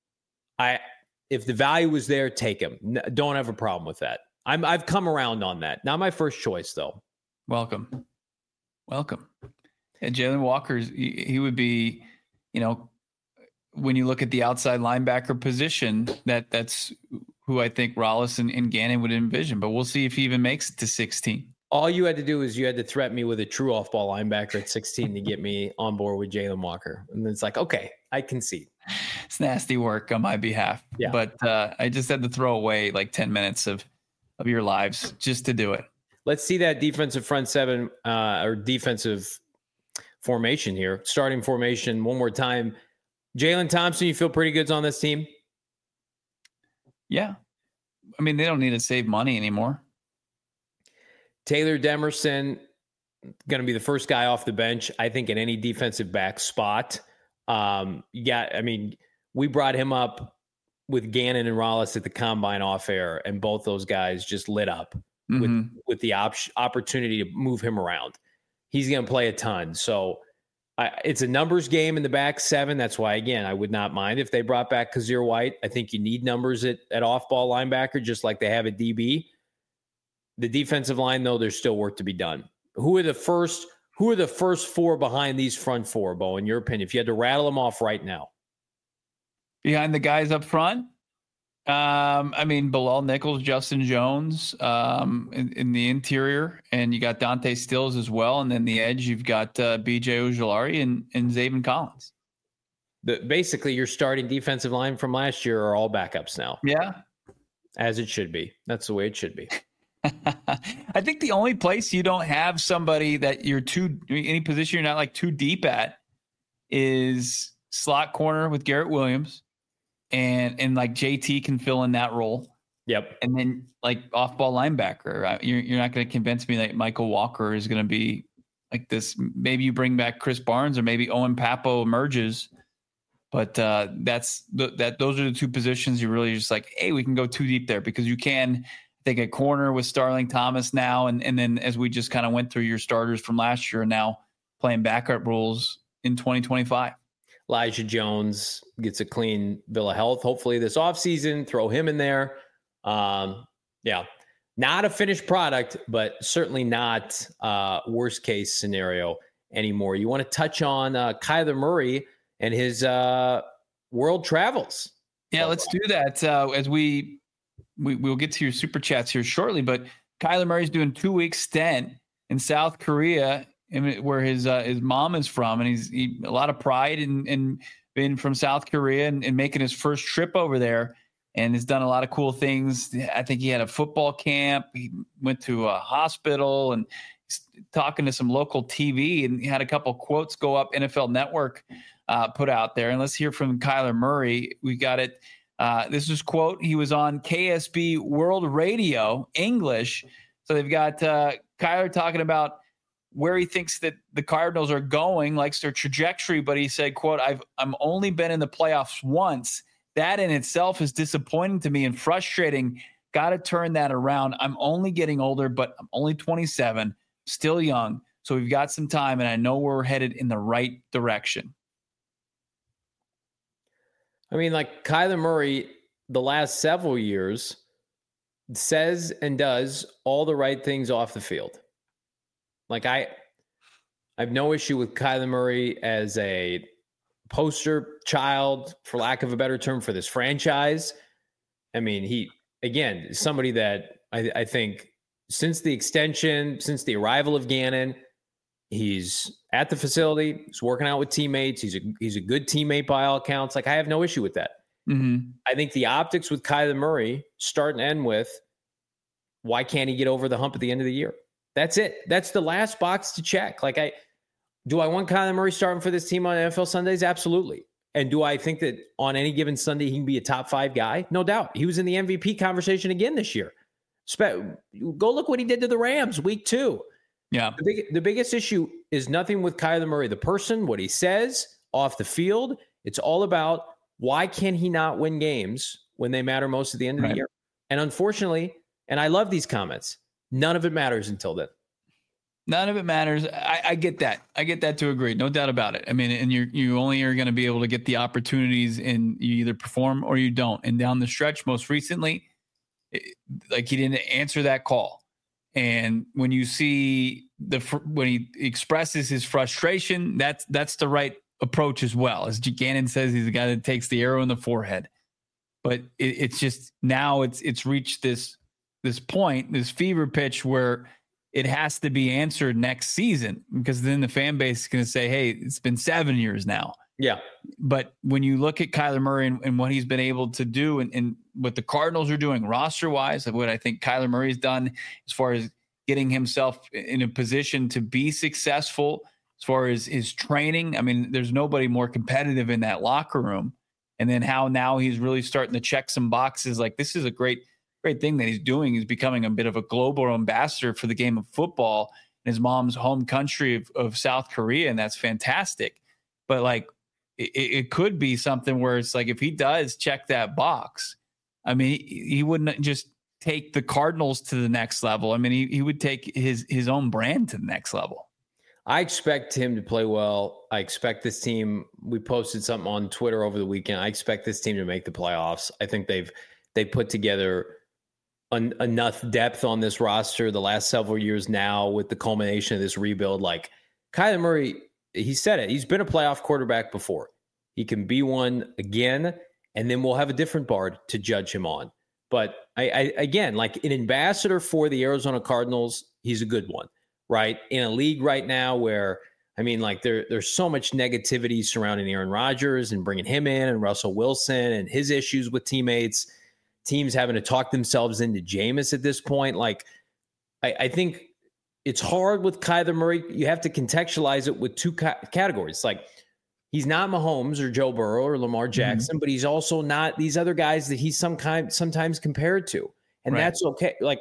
I, if the value was there, take him. N- don't have a problem with that. I'm, I've come around on that. Not my first choice though. Welcome. Welcome. And Jalen Walker's, he, he would be, you know, when you look at the outside linebacker position, that that's who I think Rollis and, and Gannon would envision, but we'll see if he even makes it to sixteen. All you had to do is you had to threaten me with a true off-ball linebacker at sixteen to get me on board with Jalen Walker. And it's like, okay, I concede. It's nasty work on my behalf. Yeah. But uh, I just had to throw away like ten minutes of, of your lives just to do it. Let's see that defensive front seven uh, or defensive formation here. Starting formation one more time. Jalen Thompson, you feel pretty good on this team? Yeah. I mean, they don't need to save money anymore. Taylor Demerson, going to be the first guy off the bench, I think, in any defensive back spot. Um, you got, I mean, we brought him up with Gannon and Rollis at the combine off air, and both those guys just lit up mm-hmm. with, with the op- opportunity to move him around. He's going to play a ton. So I, it's a numbers game in the back seven. That's why, again, I would not mind if they brought back Kazir White. I think you need numbers at, at off-ball linebacker, just like they have at D B. The defensive line, though, there's still work to be done. Who are the first Who are the first four behind these front four, Bo, in your opinion, if you had to rattle them off right now? Behind the guys up front? Um, I mean, Bilal Nichols, Justin Jones um, in, in the interior, and you got Dante Stills as well. And then the edge, you've got uh, B J Ojulari and, and Zaven Collins. The, basically, your starting defensive line from last year are all backups now. Yeah. As it should be. That's the way it should be. I think the only place you don't have somebody that you're too, any position you're not like too deep at is slot corner with Garrett Williams, and and like J T can fill in that role. Yep. And then like off ball linebacker, you're you're not going to convince me that Michael Walker is going to be like this. Maybe you bring back Chris Barnes, or maybe Owen Papo emerges. But uh, that's the, that those are the two positions you really just like, hey, we can go too deep there, because you can. I think at corner with Starling Thomas now, and, and then as we just kind of went through your starters from last year, and now playing backup roles in twenty twenty-five. Elijah Jones gets a clean bill of health, hopefully this offseason. Throw him in there. Um, yeah, not a finished product, but certainly not uh, worst case scenario anymore. You want to touch on uh, Kyler Murray and his uh, world travels. Yeah, let's do that uh, as we – We, we'll get to your super chats here shortly, but Kyler Murray's doing two week stint in South Korea, where his uh, his mom is from, and he's he, a lot of pride in, in being from South Korea and, and making his first trip over there, and has done a lot of cool things. I think he had a football camp. He went to a hospital and he's talking to some local T V, and he had a couple quotes go up. N F L Network uh, put out there, and let's hear from Kyler Murray. We got it. Uh, this is quote. He was on K S B World Radio English. So they've got uh, Kyler talking about where he thinks that the Cardinals are going, likes their trajectory. But he said, quote, I've I'm only been in the playoffs once. That in itself is disappointing to me and frustrating. Got to turn that around. I'm only getting older, but I'm only twenty-seven, still young. So we've got some time, and I know we're headed in the right direction. I mean, like Kyler Murray, the last several years, says and does all the right things off the field. Like I, I have no issue with Kyler Murray as a poster child, for lack of a better term, for this franchise. I mean, he, again, is somebody that I, I think since the extension, since the arrival of Gannon, he's at the facility. He's working out with teammates. He's a he's a good teammate by all accounts. Like, I have no issue with that. Mm-hmm. I think the optics with Kyler Murray start and end with, why can't he get over the hump at the end of the year? That's it. That's the last box to check. Like, I do I want Kyler Murray starting for this team on N F L Sundays? Absolutely. And do I think that on any given Sunday he can be a top five guy? No doubt. He was in the M V P conversation again this year. Spe- Go look what he did to the Rams week two. Yeah. The, big, the biggest issue is nothing with Kyler Murray, the person, what he says off the field. It's all about, why can he not win games when they matter most at the end of right. the year? And unfortunately, and I love these comments, none of it matters until then. None of it matters. I, I get that. I get that to agree. No doubt about it. I mean, and you you only are going to be able to get the opportunities, and you either perform or you don't. And down the stretch, most recently, it, like he didn't answer that call. And when you see the when he expresses his frustration, that's that's the right approach as well. As Gannon says, he's the guy that takes the arrow in the forehead. But it, it's just now it's it's reached this this point, this fever pitch where it has to be answered next season, because then the fan base is going to say, hey, it's been seven years now. Yeah. But when you look at Kyler Murray and, and what he's been able to do and, and what the Cardinals are doing roster wise, what I think Kyler Murray's done as far as getting himself in a position to be successful, as far as his training. I mean, there's nobody more competitive in that locker room. And then how now he's really starting to check some boxes. Like, this is a great, great thing that he's doing. He's becoming a bit of a global ambassador for the game of football in his mom's home country of, of South Korea. And that's fantastic. But like, it, it could be something where it's like, if he does check that box, I mean, he, he wouldn't just take the Cardinals to the next level. I mean, he, he would take his, his own brand to the next level. I expect him to play well. I expect this team, we posted something on Twitter over the weekend. I expect this team to make the playoffs. I think they've, they put together en- enough depth on this roster the last several years now with the culmination of this rebuild. Like, Kyler Murray, he said it, he's been a playoff quarterback before. He can be one again, and then we'll have a different bar to judge him on. But I, I again, like an ambassador for the Arizona Cardinals, he's a good one. Right? In a league right now where, I mean, like there, there's so much negativity surrounding Aaron Rodgers and bringing him in, and Russell Wilson and his issues with teammates, teams having to talk themselves into Jameis at this point. Like, I, I think it's hard with Kyler Murray. You have to contextualize it with two ca- categories. Like, he's not Mahomes or Joe Burrow or Lamar Jackson, mm-hmm. but he's also not these other guys that he's some kind, sometimes compared to. And right. that's okay. Like,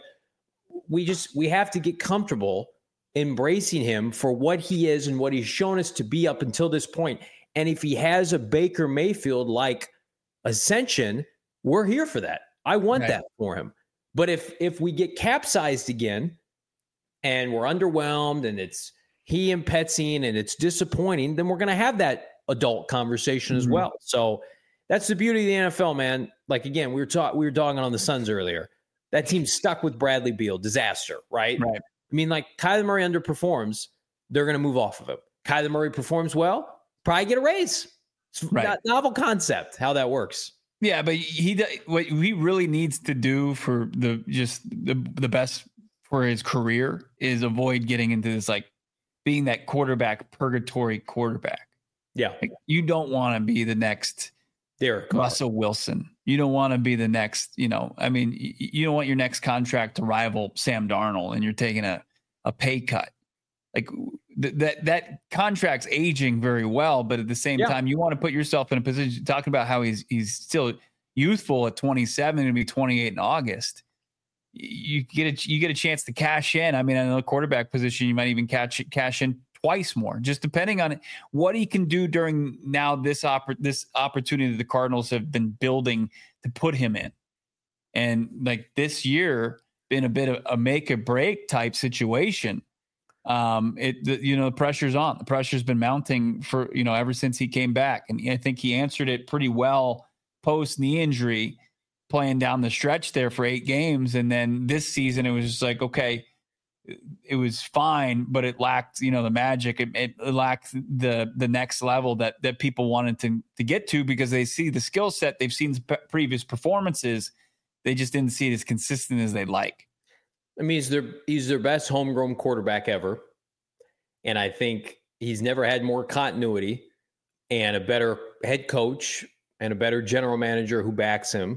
we just, we have to get comfortable embracing him for what he is and what he's shown us to be up until this point. And if he has a Baker Mayfield like ascension, we're here for that. I want right. that for him. But if if we get capsized again and we're underwhelmed and it's he and Petsine and it's disappointing, then we're going to have that adult conversation mm-hmm. as well. So that's the beauty of the N F L, man. Like, again, we were talking, we were dogging on the Suns earlier. That team's stuck with Bradley Beal, disaster, right? Right. I mean, like, Kyler Murray underperforms, they're going to move off of him. Kyler Murray performs well, probably get a raise. It's right. a novel concept, how that works. Yeah, but he what he really needs to do for the just the, the best for his career is avoid getting into this, like, being that quarterback purgatory quarterback. Yeah. Like, you don't want to be the next Derek Russell Wilson. You don't want to be the next, you know, I mean, you don't want your next contract to rival Sam Darnold and you're taking a, a pay cut. Like th- that, that contract's aging very well, but at the same yeah. time, you want to put yourself in a position, talking about how he's, he's still youthful at twenty-seven and be twenty-eight in August. You get a, you get a chance to cash in. I mean, in the quarterback position, you might even catch cash in twice more, just depending on what he can do during now this oppor- this opportunity that the Cardinals have been building to put him in. And like this year been a bit of a make or break type situation. Um, it, the, you know, the pressure's on, the pressure's been mounting for, you know, ever since he came back. And I think he answered it pretty well post knee injury, playing down the stretch there for eight games. And then this season, it was just like, okay, it was fine, but it lacked, you know, the magic. It, it lacked the the next level that that people wanted to to get to, because they see the skill set, they've seen p- previous performances, they just didn't see it as consistent as they'd like. I mean, he's their he's their best homegrown quarterback ever, and I think he's never had more continuity and a better head coach and a better general manager who backs him.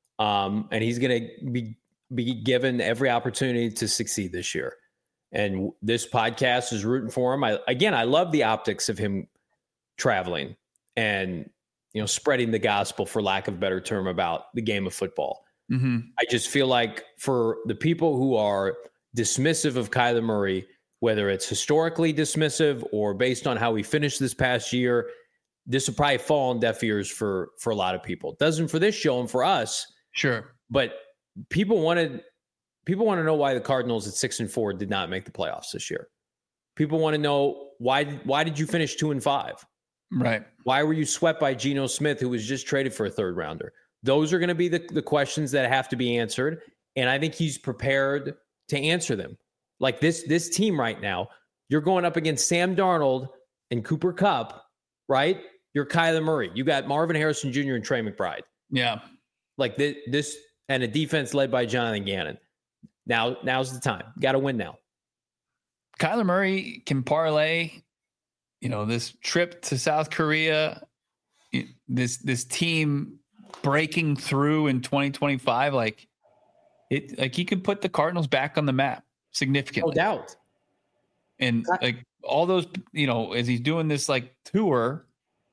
Um, and he's going to be be given every opportunity to succeed this year. And this podcast is rooting for him. I, again, I love the optics of him traveling and, you know, spreading the gospel, for lack of a better term, about the game of football. Mm-hmm. I just feel like for the people who are dismissive of Kyler Murray, whether it's historically dismissive or based on how he finished this past year, this will probably fall on deaf ears for, for a lot of people. It doesn't for this show and for us. Sure. But people wanted, people want to know why the Cardinals at six and four did not make the playoffs this year. People want to know why, why did you finish two and five? Right. Why were you swept by Geno Smith, who was just traded for a third rounder? Those are going to be the, the questions that have to be answered. And I think he's prepared to answer them. Like this, this team right now, you're going up against Sam Darnold and Cooper Kupp, right? You're Kyler Murray. You got Marvin Harrison Junior and Trey McBride. Yeah. Like this, this and a defense led by Jonathan Gannon. Now, now's the time. Got to win now. Kyler Murray can parlay, you know, this trip to South Korea, this this team breaking through in twenty twenty-five, like it, like he could put the Cardinals back on the map significantly. No doubt. And like all those, you know, as he's doing this like tour,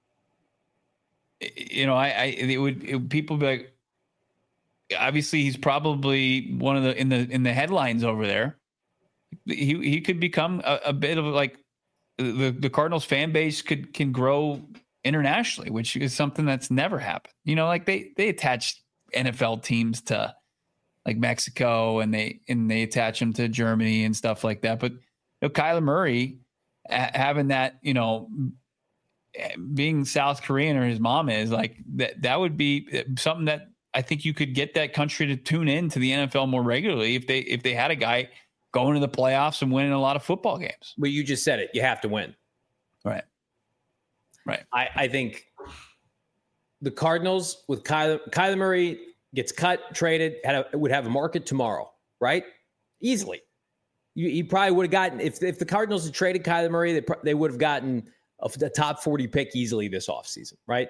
you know, I, I it would it, people be like, obviously he's probably one of the in the in the headlines over there. He he could become a, a bit of like the the Cardinals fan base could can grow internationally, which is something that's never happened. You know, like they they attach N F L teams to like Mexico and they and they attach them to Germany and stuff like that. But you know, Kyler Murray having that, you know, being South Korean or his mom is like that, that would be something that I think you could get that country to tune in to the N F L more regularly if they if they had a guy going to the playoffs and winning a lot of football games. Well, you just said it. You have to win. Right. Right. I, I think the Cardinals with Kyler, Kyler Murray gets cut, traded, had a, would have a market tomorrow, right? Easily. You, you probably would have gotten, if if the Cardinals had traded Kyler Murray, they, they would have gotten a, a top forty pick easily this offseason, right?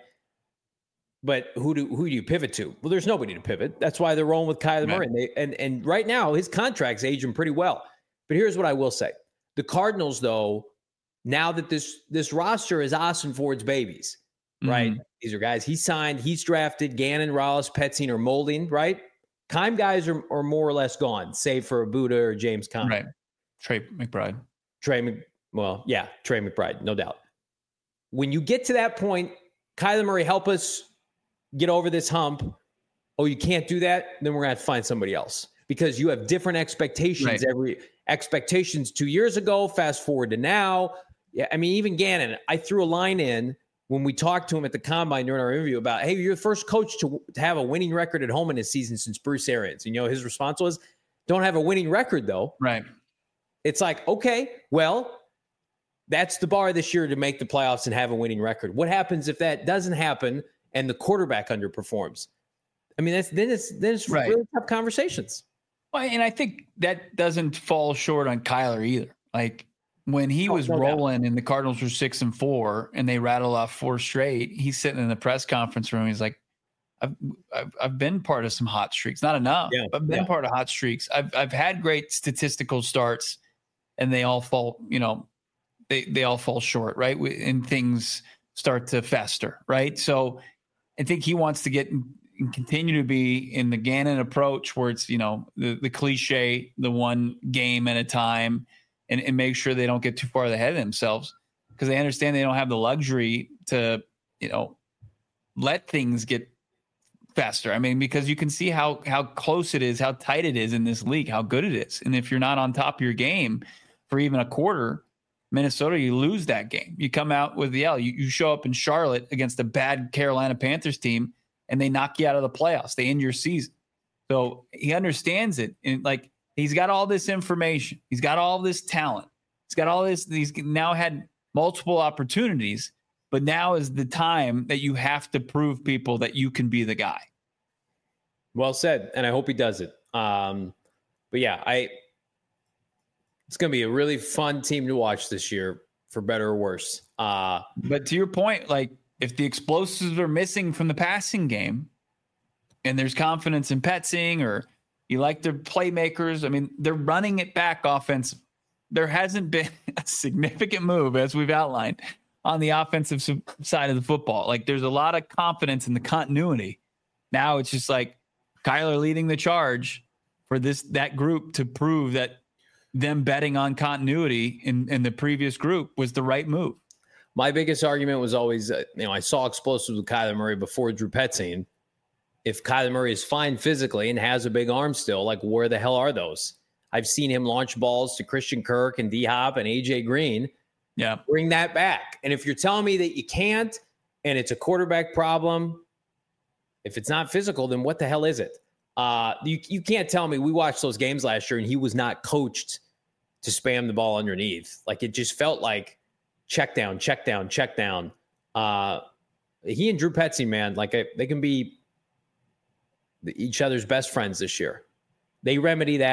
But who do who do you pivot to? Well, there's nobody to pivot. That's why they're rolling with Kyler Murray. And, they, and and right now, his contract's aging pretty well. But here's what I will say. The Cardinals, though, now that this this roster is Austin Ford's babies, right? Mm-hmm. These are guys he signed, he's drafted. Gannon, Rollis, Petzing are molding, right? Keim guys are, are more or less gone, save for Abuda or James Conner. Right. Trey McBride. Trey Mc, well, yeah, Trey McBride, no doubt. When you get to that point, Kyler Murray, help us get over this hump. Oh, you can't do that? Then we're going to have to find somebody else because you have different expectations. Right. Every expectations two years ago, fast forward to now. Yeah, I mean, even Gannon, I threw a line in when we talked to him at the Combine during our interview about, hey, you're the first coach to, to have a winning record at home in this season since Bruce Arians. And, you know, his response was, don't have a winning record, though. Right. It's like, okay, well, that's the bar this year to make the playoffs and have a winning record. What happens if that doesn't happen and the quarterback underperforms? I mean, that's then it's then it's right. really tough conversations. Well, and I think that doesn't fall short on Kyler either. Like when he oh, was no rolling doubt. and the Cardinals were six and four and they rattle off four straight, he's sitting in the press conference room. He's like, I've I've, I've been part of some hot streaks, not enough, yeah. but I've been yeah. part of hot streaks. I've I've had great statistical starts and they all fall, you know, they, they all fall short, right? And things start to fester, right? So I think he wants to get and continue to be in the Gannon approach where it's, you know, the, the cliche, the one game at a time and, and make sure they don't get too far ahead of themselves because they understand they don't have the luxury to, you know, let things get faster. I mean, because you can see how, how close it is, how tight it is in this league, how good it is. And if you're not on top of your game for even a quarter, Minnesota, you lose that game. You come out with the L. You, you show up in Charlotte against a bad Carolina Panthers team, and they knock you out of the playoffs. They end your season. So he understands it. And like he's got all this information. He's got all this talent. He's got all this. He's now had multiple opportunities, but now is the time that you have to prove people that you can be the guy. Well said. And I hope he does it. Um, but yeah, I, it's going to be a really fun team to watch this year, for better or worse. Uh, but to your point, like if the explosives are missing from the passing game and there's confidence in Petzing or you like their playmakers, I mean, they're running it back offensive. There hasn't been a significant move, as we've outlined, on the offensive side of the football. Like there's a lot of confidence in the continuity. Now it's just like Kyler leading the charge for this, that group to prove that them betting on continuity in, in the previous group was the right move. My biggest argument was always, uh, you know, I saw explosives with Kyler Murray before Drew Petzing. If Kyler Murray is fine physically and has a big arm still, like where the hell are those? I've seen him launch balls to Christian Kirk and D-Hop and A J Green. Yeah. Bring that back. And if you're telling me that you can't and it's a quarterback problem, if it's not physical, then what the hell is it? Uh, you, you can't tell me we watched those games last year and he was not coached to spam the ball underneath. Like it just felt like check down, check down, check down. Uh, he and Drew Petzing, man, like I, they can be each other's best friends this year. They remedy that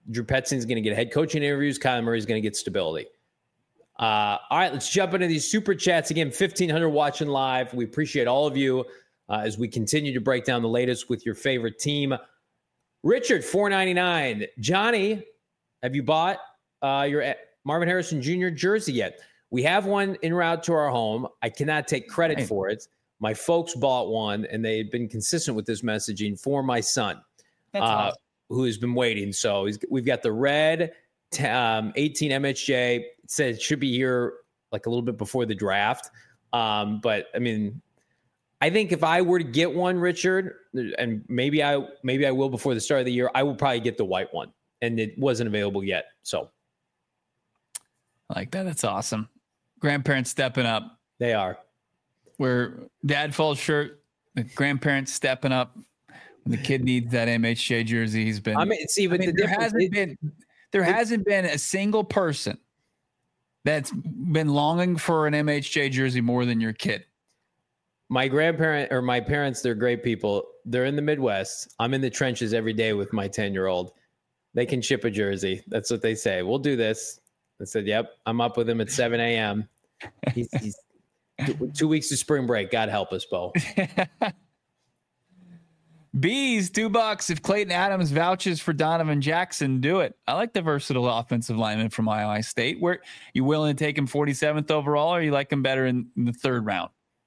Drew Petzing's going to get head coaching interviews. Kyler Murray's going to get stability. Uh, all right, let's jump into these super chats. Again, fifteen hundred watching live. We appreciate all of you uh, as we continue to break down the latest with your favorite team. Richard, four ninety-nine. Johnny, have you bought uh, your Marvin Harrison Junior jersey yet? We have one en route to our home. I cannot take credit Hey. for it. My folks bought one, and they've been consistent with this messaging for my son, That's uh, awesome. who has been waiting. So he's, we've got the red t- um, eighteen M H J. It said it should be here like a little bit before the draft. Um, but, I mean, I think if I were to get one, Richard, and maybe I maybe I will before the start of the year, I will probably get the white one, and it wasn't available yet. So I like that. That's awesome. Grandparents stepping up. they are. Where dad falls short, the grandparents stepping up. When the kid needs that M H J jersey, he's been. I mean, see, I but mean, the there difference hasn't is- been there hasn't been a single person that's been longing for an M H J jersey more than your kid. my grandparent or my parents, they're great people. They're in the Midwest. I'm in the trenches every day with my ten-year-old. They can ship a jersey. That's what they say. We'll do this. I said, yep, I'm up with him at seven a.m. He's, he's two, two weeks to spring break. God help us, Bo. Bees, two bucks. If Clayton Adams vouches for Donovan Jackson, do it. I like the versatile offensive lineman from Iowa State. Where you willing to take him forty-seventh overall, or you like him better in, in the third round?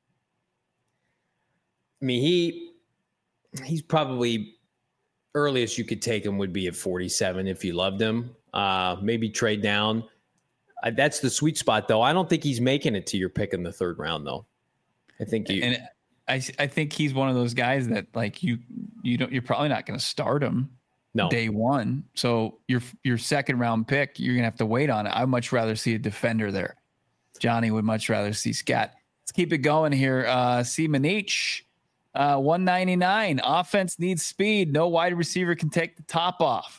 I mean, he he's probably earliest you could take him would be at forty-seven if you loved him. Uh, maybe trade down. Uh, that's the sweet spot, though. I don't think he's making it to your pick in the third round, though. I think you. And I, I think he's one of those guys that like you, you don't, you're probably not going to start him no. day one. So your your second round pick, you're gonna have to wait on it. I'd much rather see a defender there. Johnny would much rather see Scat. Let's keep it going here. Uh, see Manich, uh, one ninety-nine. Offense needs speed. No wide receiver can take the top off.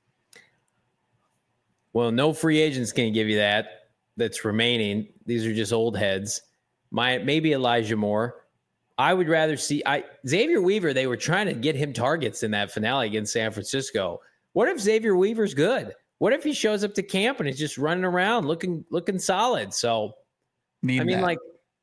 Well, no free agents can give you that. That's remaining. These are just old heads. My maybe Elijah Moore. I would rather see I Xavier Weaver. They were trying to get him targets in that finale against San Francisco. What if Xavier Weaver's good? What if he shows up to camp and is just running around looking looking solid? So Need I mean, that. like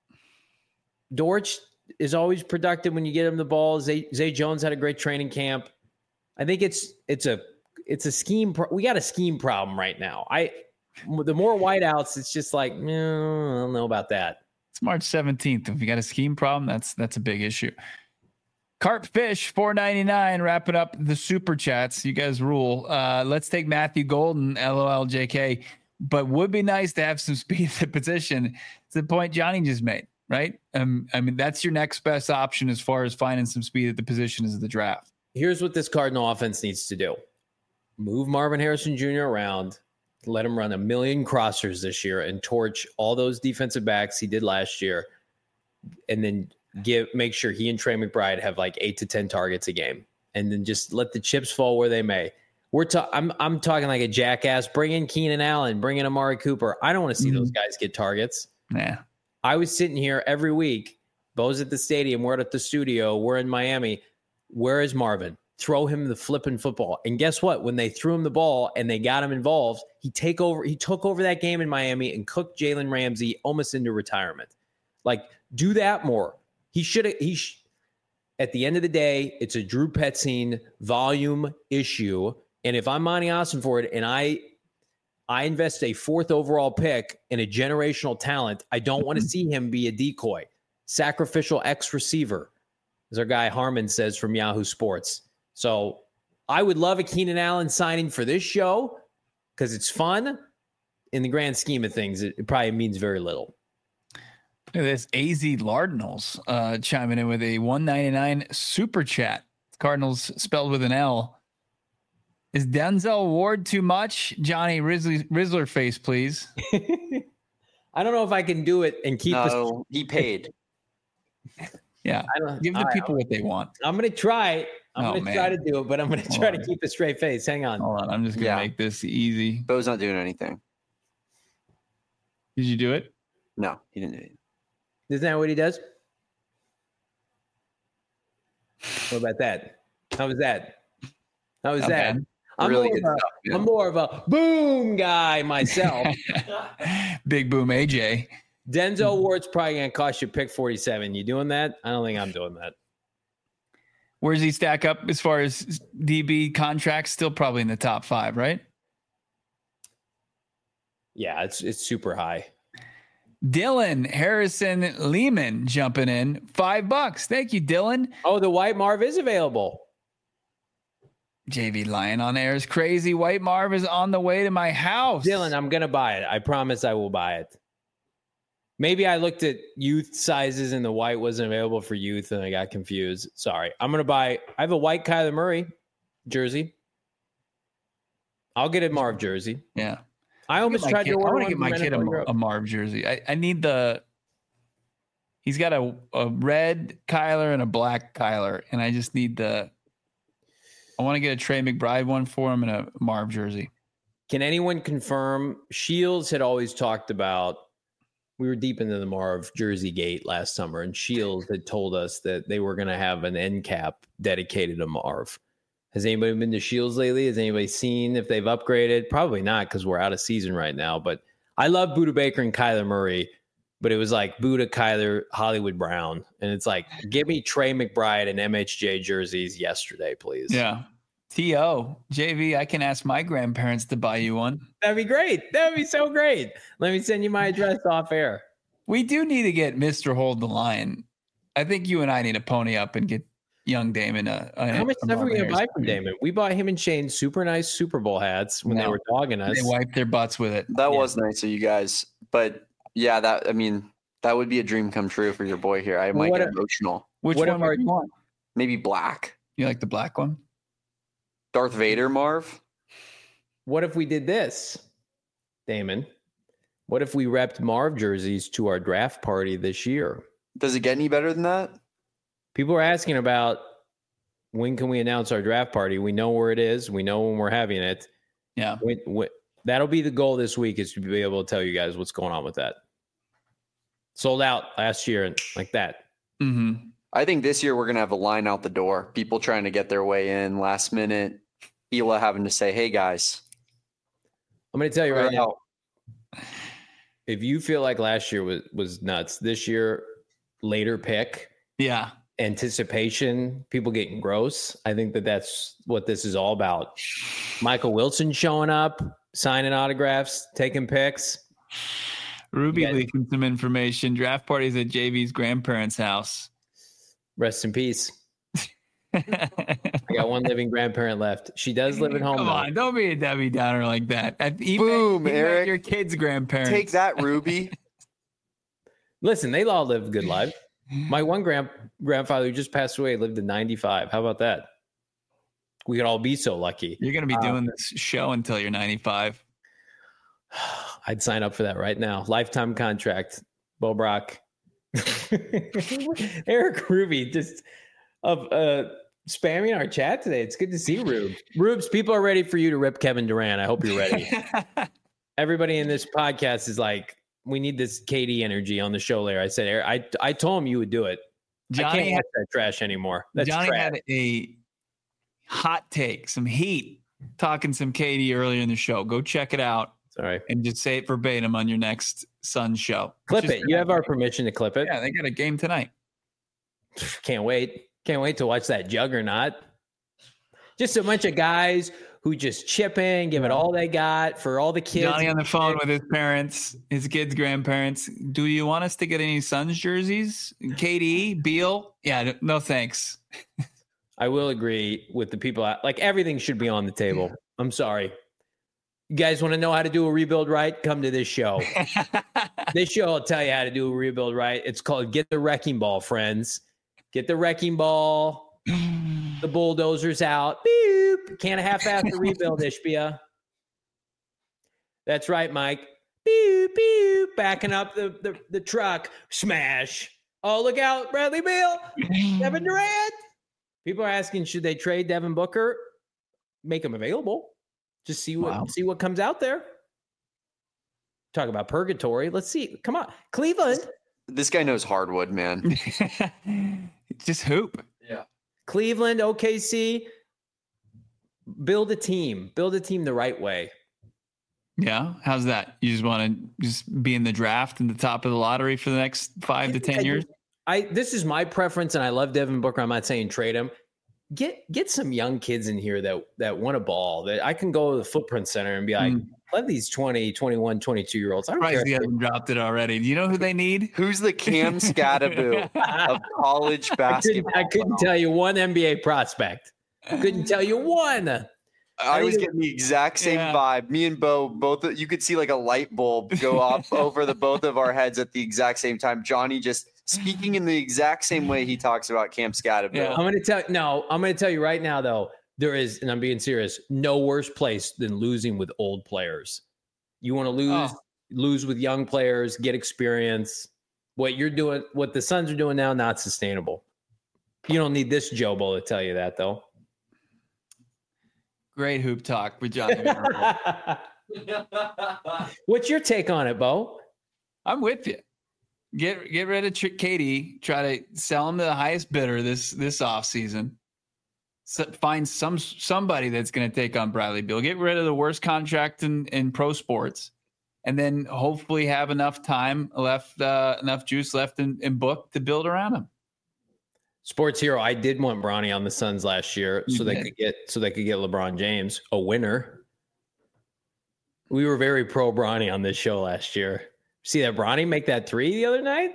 Dortch is always productive when you get him the ball. Zay, Zay Jones had a great training camp. I think it's it's a it's a scheme. Pro- we got a scheme problem right now. I the more whiteouts, it's just like no, I don't know about that. It's March seventeenth. If you got a scheme problem, that's that's a big issue. Carp Fish, four ninety-nine, wrapping up the super chats. You guys rule. Uh, let's take Matthew Golden, LOL J K. But would be nice to have some speed at the position. It's the point Johnny just made, right? Um, I mean, that's your next best option as far as finding some speed at the position is the draft. Here's what this Cardinal offense needs to do. Move Marvin Harrison Junior around. Let him run a million crossers this year and torch all those defensive backs he did last year. And then give make sure he and Trey McBride have like eight to ten targets a game. And then just let the chips fall where they may. We're ta- I'm I'm talking like a jackass. Bring in Keenan Allen, bring in Amari Cooper. I don't want to see mm-hmm. those guys get targets. Yeah. I was sitting here every week. Bo's at the stadium. We're at the studio. We're in Miami. Where is Marvin? Throw him the flipping football. And guess what? When they threw him the ball and they got him involved, he take over. He took over that game in Miami and cooked Jalen Ramsey almost into retirement. Like, do that more. He should have. He sh- at the end of the day, it's a Drew Petzing volume issue. And if I'm Monty Ossenford and I, I invest a fourth overall pick in a generational talent, I don't want to see him be a decoy, sacrificial X receiver, as our guy Harmon says from Yahoo Sports. So I would love a Keenan Allen signing for this show because it's fun. In the grand scheme of things, it, it probably means very little. Look at this. A Z Lardinals uh, chiming in with a one ninety-nine super chat. Cardinals spelled with an L. Is Denzel Ward too much? Johnny Risley, Rizzler face, please. I don't know if I can do it and keep. No, he paid. Yeah, give the people what they want. I'm going to try. I'm oh, going to try to do it, but I'm going to try Hold to on. keep a straight face. Hang on. Hold on. I'm just going to Yeah. make this easy. Bo's not doing anything. Did you do it? No, he didn't do it. Isn't that what he does? What about that? How was that? How was Not that? bad. I'm, really more good of a, stuff, man. I'm more of a boom guy myself. Big boom A J. Denzel Ward's probably going to cost you pick forty-seven. You doing that? I don't think I'm doing that. Where does he stack up as far as D B contracts? Still probably in the top five, right? Yeah, it's it's super high. Dylan Harrison Lehman jumping in. Five bucks. Thank you, Dylan. Oh, the White Marv is available. J V Lion on air is crazy. White Marv is on the way to my house. Dylan, I'm going to buy it. I promise I will buy it. Maybe I looked at youth sizes and the white wasn't available for youth and I got confused. Sorry. I'm going to buy, I have a white Kyler Murray jersey. I'll get a Marv jersey. Yeah. I almost tried kid, to order I want one to get my from kid N F L a, Europe. a Marv jersey. I, I need the, he's got a, a red Kyler and a black Kyler. And I just need the, I want to get a Trey McBride one for him and a Marv jersey. Can anyone confirm? Shields had always talked about, we were deep into the Marv jersey gate last summer, and Shields had told us that they were going to have an end cap dedicated to Marv. Has anybody been to Shields lately? Has anybody seen if they've upgraded? Probably not, because we're out of season right now. But I love Budda Baker and Kyler Murray, but it was like Budda, Kyler, Hollywood Brown. And it's like, give me Trey McBride and M H J jerseys yesterday, please. Yeah. T O, J V, I can ask my grandparents to buy you one. That'd be great. That'd be so great. Let me send you my address off air. We do need to get Mister Hold the Line. I think you and I need to pony up and get young Damon a, a How much a stuff are we Marvin going to buy Harrison from jersey. Damon? We bought him and Shane super nice Super Bowl hats when No. they were dogging us. They wiped their butts with it. That Yeah. was nice of you guys. But yeah, that I mean, that would be a dream come true for your boy here. I Well, might what get if- emotional. Which What one if our- would you want? Maybe black. You like the black one? Darth Vader, Marv. What if we did this, Damon? What if we repped Marv jerseys to our draft party this year? Does it get any better than that? People are asking about when can we announce our draft party? We know where it is. We know when we're having it. Yeah. When, when, that'll be the goal this week, is to be able to tell you guys what's going on with that. Sold out last year and like that. Mm-hmm. I think this year we're gonna have a line out the door. People trying to get their way in last minute. Hila having to say, "Hey guys, I'm going to tell you right we're now, out." if you feel like last year was, was nuts, this year, later pick, Yeah. anticipation, people getting gross. I think that that's what this is all about. Michael Wilson showing up, signing autographs, taking pics. Ruby Yeah. leaking some information. Draft parties at J V's grandparents' house. Rest in peace. I got one living grandparent left. She does live at home. Come though. on, don't be a Debbie Downer like that. At- Even, Boom, even Eric. your kids' grandparents. Take that, Ruby. Listen, they all live good lives. My one grand grandfather who just passed away lived to ninety-five. How about that? We could all be so lucky. You're going to be Uh, doing this show until you're ninety-five. I'd sign up for that right now. Lifetime contract. Bo Brock. Eric Ruby just of uh, spamming our chat today. It's good to see Rube. Rubes, people are ready for you to rip Kevin Durant. I hope you're ready. Everybody in this podcast is like, we need this K D energy on the show later. I said, Eric, I I told him you would do it. I Johnny, can't had, watch that trash anymore. That's Johnny trash. had a hot take, some heat, talking some K D earlier in the show. Go check it out Sorry. and just say it verbatim on your next Sun show. Clip Just- it. You have our permission to clip it. Yeah, they got a game tonight. Can't wait. Can't wait to watch that juggernaut. Just a bunch of guys who just chip in, give it all they got for all the kids. Johnny on the phone with his parents, his kids' grandparents. Do you want us to get any Suns jerseys? K D, Beal? Yeah, no thanks. I will agree with the people. out- Like everything should be on the table. I'm sorry. You guys want to know how to do a rebuild right? Come to this show. This show will tell you how to do a rebuild right. It's called Get the Wrecking Ball, friends. Get the wrecking ball. The bulldozers out. Beep. Can't half-ass the rebuild, Ishbia. That's right, Mike. Beep, beep. Backing up the, the, the truck. Smash. Oh, look out. Bradley Beal. Kevin Durant. People are asking, should they trade Devin Booker? Make him available. Just see what Wow. see what comes out there. Talk about purgatory. Let's see. Come on. Cleveland. This guy knows hardwood, man. Just hoop. Cleveland, O K C. build a team, build a team the right way. Yeah. How's that? You just want to just be in the draft and the top of the lottery for the next five to ten years? I this is my preference, and I love Devin Booker. I'm not saying trade him. Get get some young kids in here that that want a ball. That I can go to the Footprint Center and be like, mm. let these twenty, twenty-one, twenty-two year olds. I don't care. He hasn't dropped it already. Do you know who they need? Who's the Cam Scatteroo of college basketball? I couldn't, I couldn't tell you one N B A prospect. I couldn't tell you one. I was getting the exact same yeah. vibe. Me and Bo, both, you could see like a light bulb go off over the both of our heads at the exact same time. Johnny just speaking in the exact same way he talks about Cam Scatteroo. Yeah, I'm going to tell no, I'm going to tell you right now though, there is, and I'm being serious, no worse place than losing with old players. You want to lose, oh. lose with young players, get experience. What you're doing, what the Suns are doing now, not sustainable. You don't need this Jobo to tell you that though. Great hoop talk with Johnny. What's your take on it, Bo? I'm with you. Get get rid of K D. Try to sell him to the highest bidder this this offseason. So find some somebody that's going to take on Bradley Beal. Get rid of the worst contract in, in pro sports, and then hopefully have enough time left, uh, enough juice left in, in Book to build around him. Sports Hero, I did want Bronny on the Suns last year you so did. they could get so they could get LeBron James, a winner. We were very pro Bronny on this show last year. See that Bronny make that three the other night?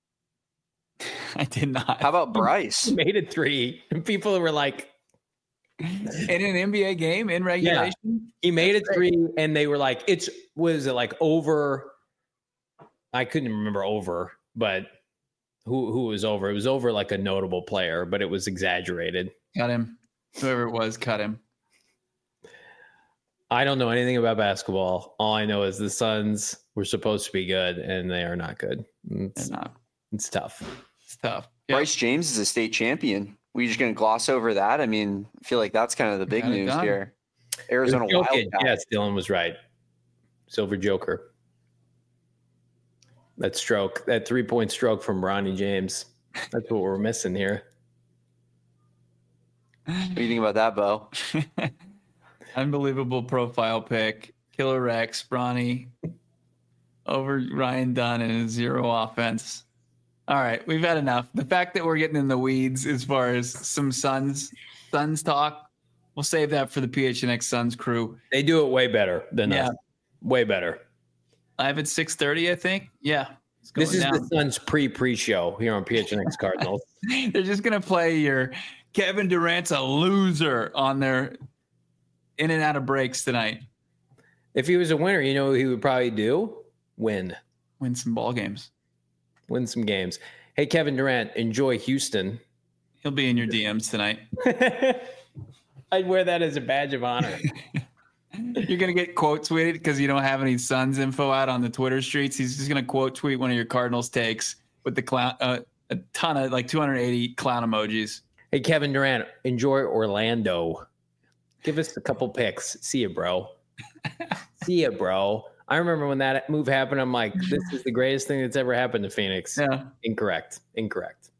I did not. How about Bryce? He made a three. And people were like, in an N B A game in regulation? Yeah. He made That's a three, great. And they were like, it's was it like over? I couldn't remember over, but who who was over? It was over like a notable player, but it was exaggerated. Cut him. Whoever it was, cut him. I don't know anything about basketball. All I know is the Suns were supposed to be good, and they are not good. It's, They're not. It's tough. It's tough. Yep. Bryce James is a state champion. We just going to gloss over that? I mean, I feel like that's kind of the big news done. here. Arizona Wildcats. Yes, Dylan was right. Silver Joker. That stroke, that three-point stroke from Bronny James. That's what we're missing here. What do you think about that, Bo? Unbelievable profile pick. Killer Rex, Bronny over Ryan Dunn and his zero offense. All right, we've had enough. The fact that we're getting in the weeds as far as some Suns, Suns talk, we'll save that for the P H N X Suns crew. They do it way better than yeah. us. Way better. Live at six thirty, I think. Yeah. This is down. the Suns pre-pre show here on P H N X Cardinals. They're just going to play your Kevin Durant's a loser on their in and out of breaks tonight. If he was a winner, you know what he would probably do? Win. Win some ball games. Win some games. Hey, Kevin Durant, enjoy Houston. He'll be in your D Ms tonight. I'd wear that as a badge of honor. You're going to get quote tweeted because you don't have any Suns info out on the Twitter streets. He's just going to quote tweet one of your Cardinals takes with the clown, uh, a ton of like two hundred eighty clown emojis. Hey, Kevin Durant, enjoy Orlando. Give us a couple picks. See you, bro. See ya, bro. I remember when that move happened, I'm like, this is the greatest thing that's ever happened to Phoenix. Yeah. Incorrect. Incorrect.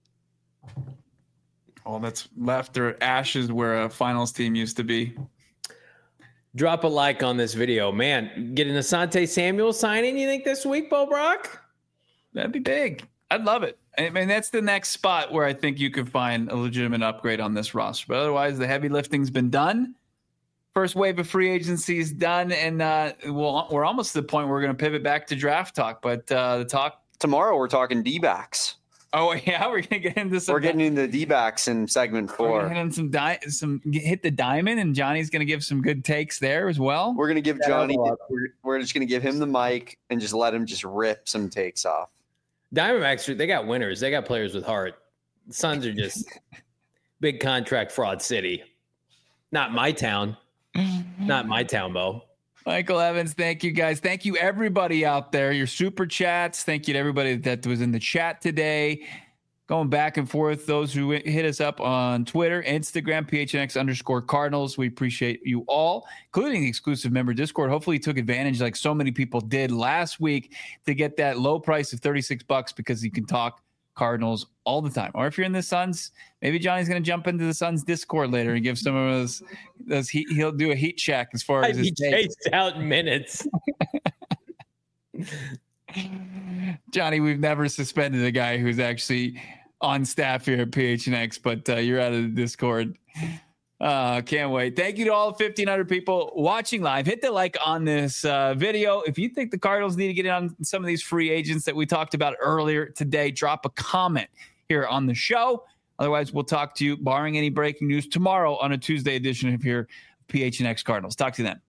All that's left are ashes where a finals team used to be. Drop a like on this video. Man, get an Asante Samuel signing, you think, this week, Bo Brock? That'd be big. I'd love it. I mean, that's the next spot where I think you could find a legitimate upgrade on this roster. But otherwise, the heavy lifting's been done. First wave of free agency is done, and uh, we'll, we're almost to the point where we're going to pivot back to draft talk. But uh, the talk tomorrow, we're talking D-backs. Oh yeah, we're going to get into some. We're getting into D-backs in segment four. We're hitting some di- some hit the diamond, and Johnny's going to give some good takes there as well. We're going to give Johnny. We're, we're just going to give him the mic and just let him just rip some takes off. Diamondbacks, they got winners. They got players with heart. The Suns are just big contract fraud city. Not my town. Not my town, Bo. Michael Evans, thank you guys. Thank you, everybody out there. Your super chats. Thank you to everybody that was in the chat today. Going back and forth. Those who hit us up on Twitter, Instagram, P H N X underscore Cardinals. We appreciate you all, including the exclusive member Discord. Hopefully you took advantage, like so many people did last week, to get that low price of thirty-six bucks because you can talk Cardinals all the time. Or if you're in the Suns, maybe Johnny's going to jump into the Suns Discord later and give some of those, those heat, he'll do a heat check as far as I'd his be chased out in minutes. Johnny, we've never suspended a guy who's actually on staff here at P H N X, but uh, you're out of the Discord. Uh, can't wait. Thank you to all fifteen hundred people watching live. Hit the like on this uh, video. If you think the Cardinals need to get in on some of these free agents that we talked about earlier today, drop a comment here on the show. Otherwise, we'll talk to you, barring any breaking news, tomorrow on a Tuesday edition of here P H N X Cardinals. Talk to you then.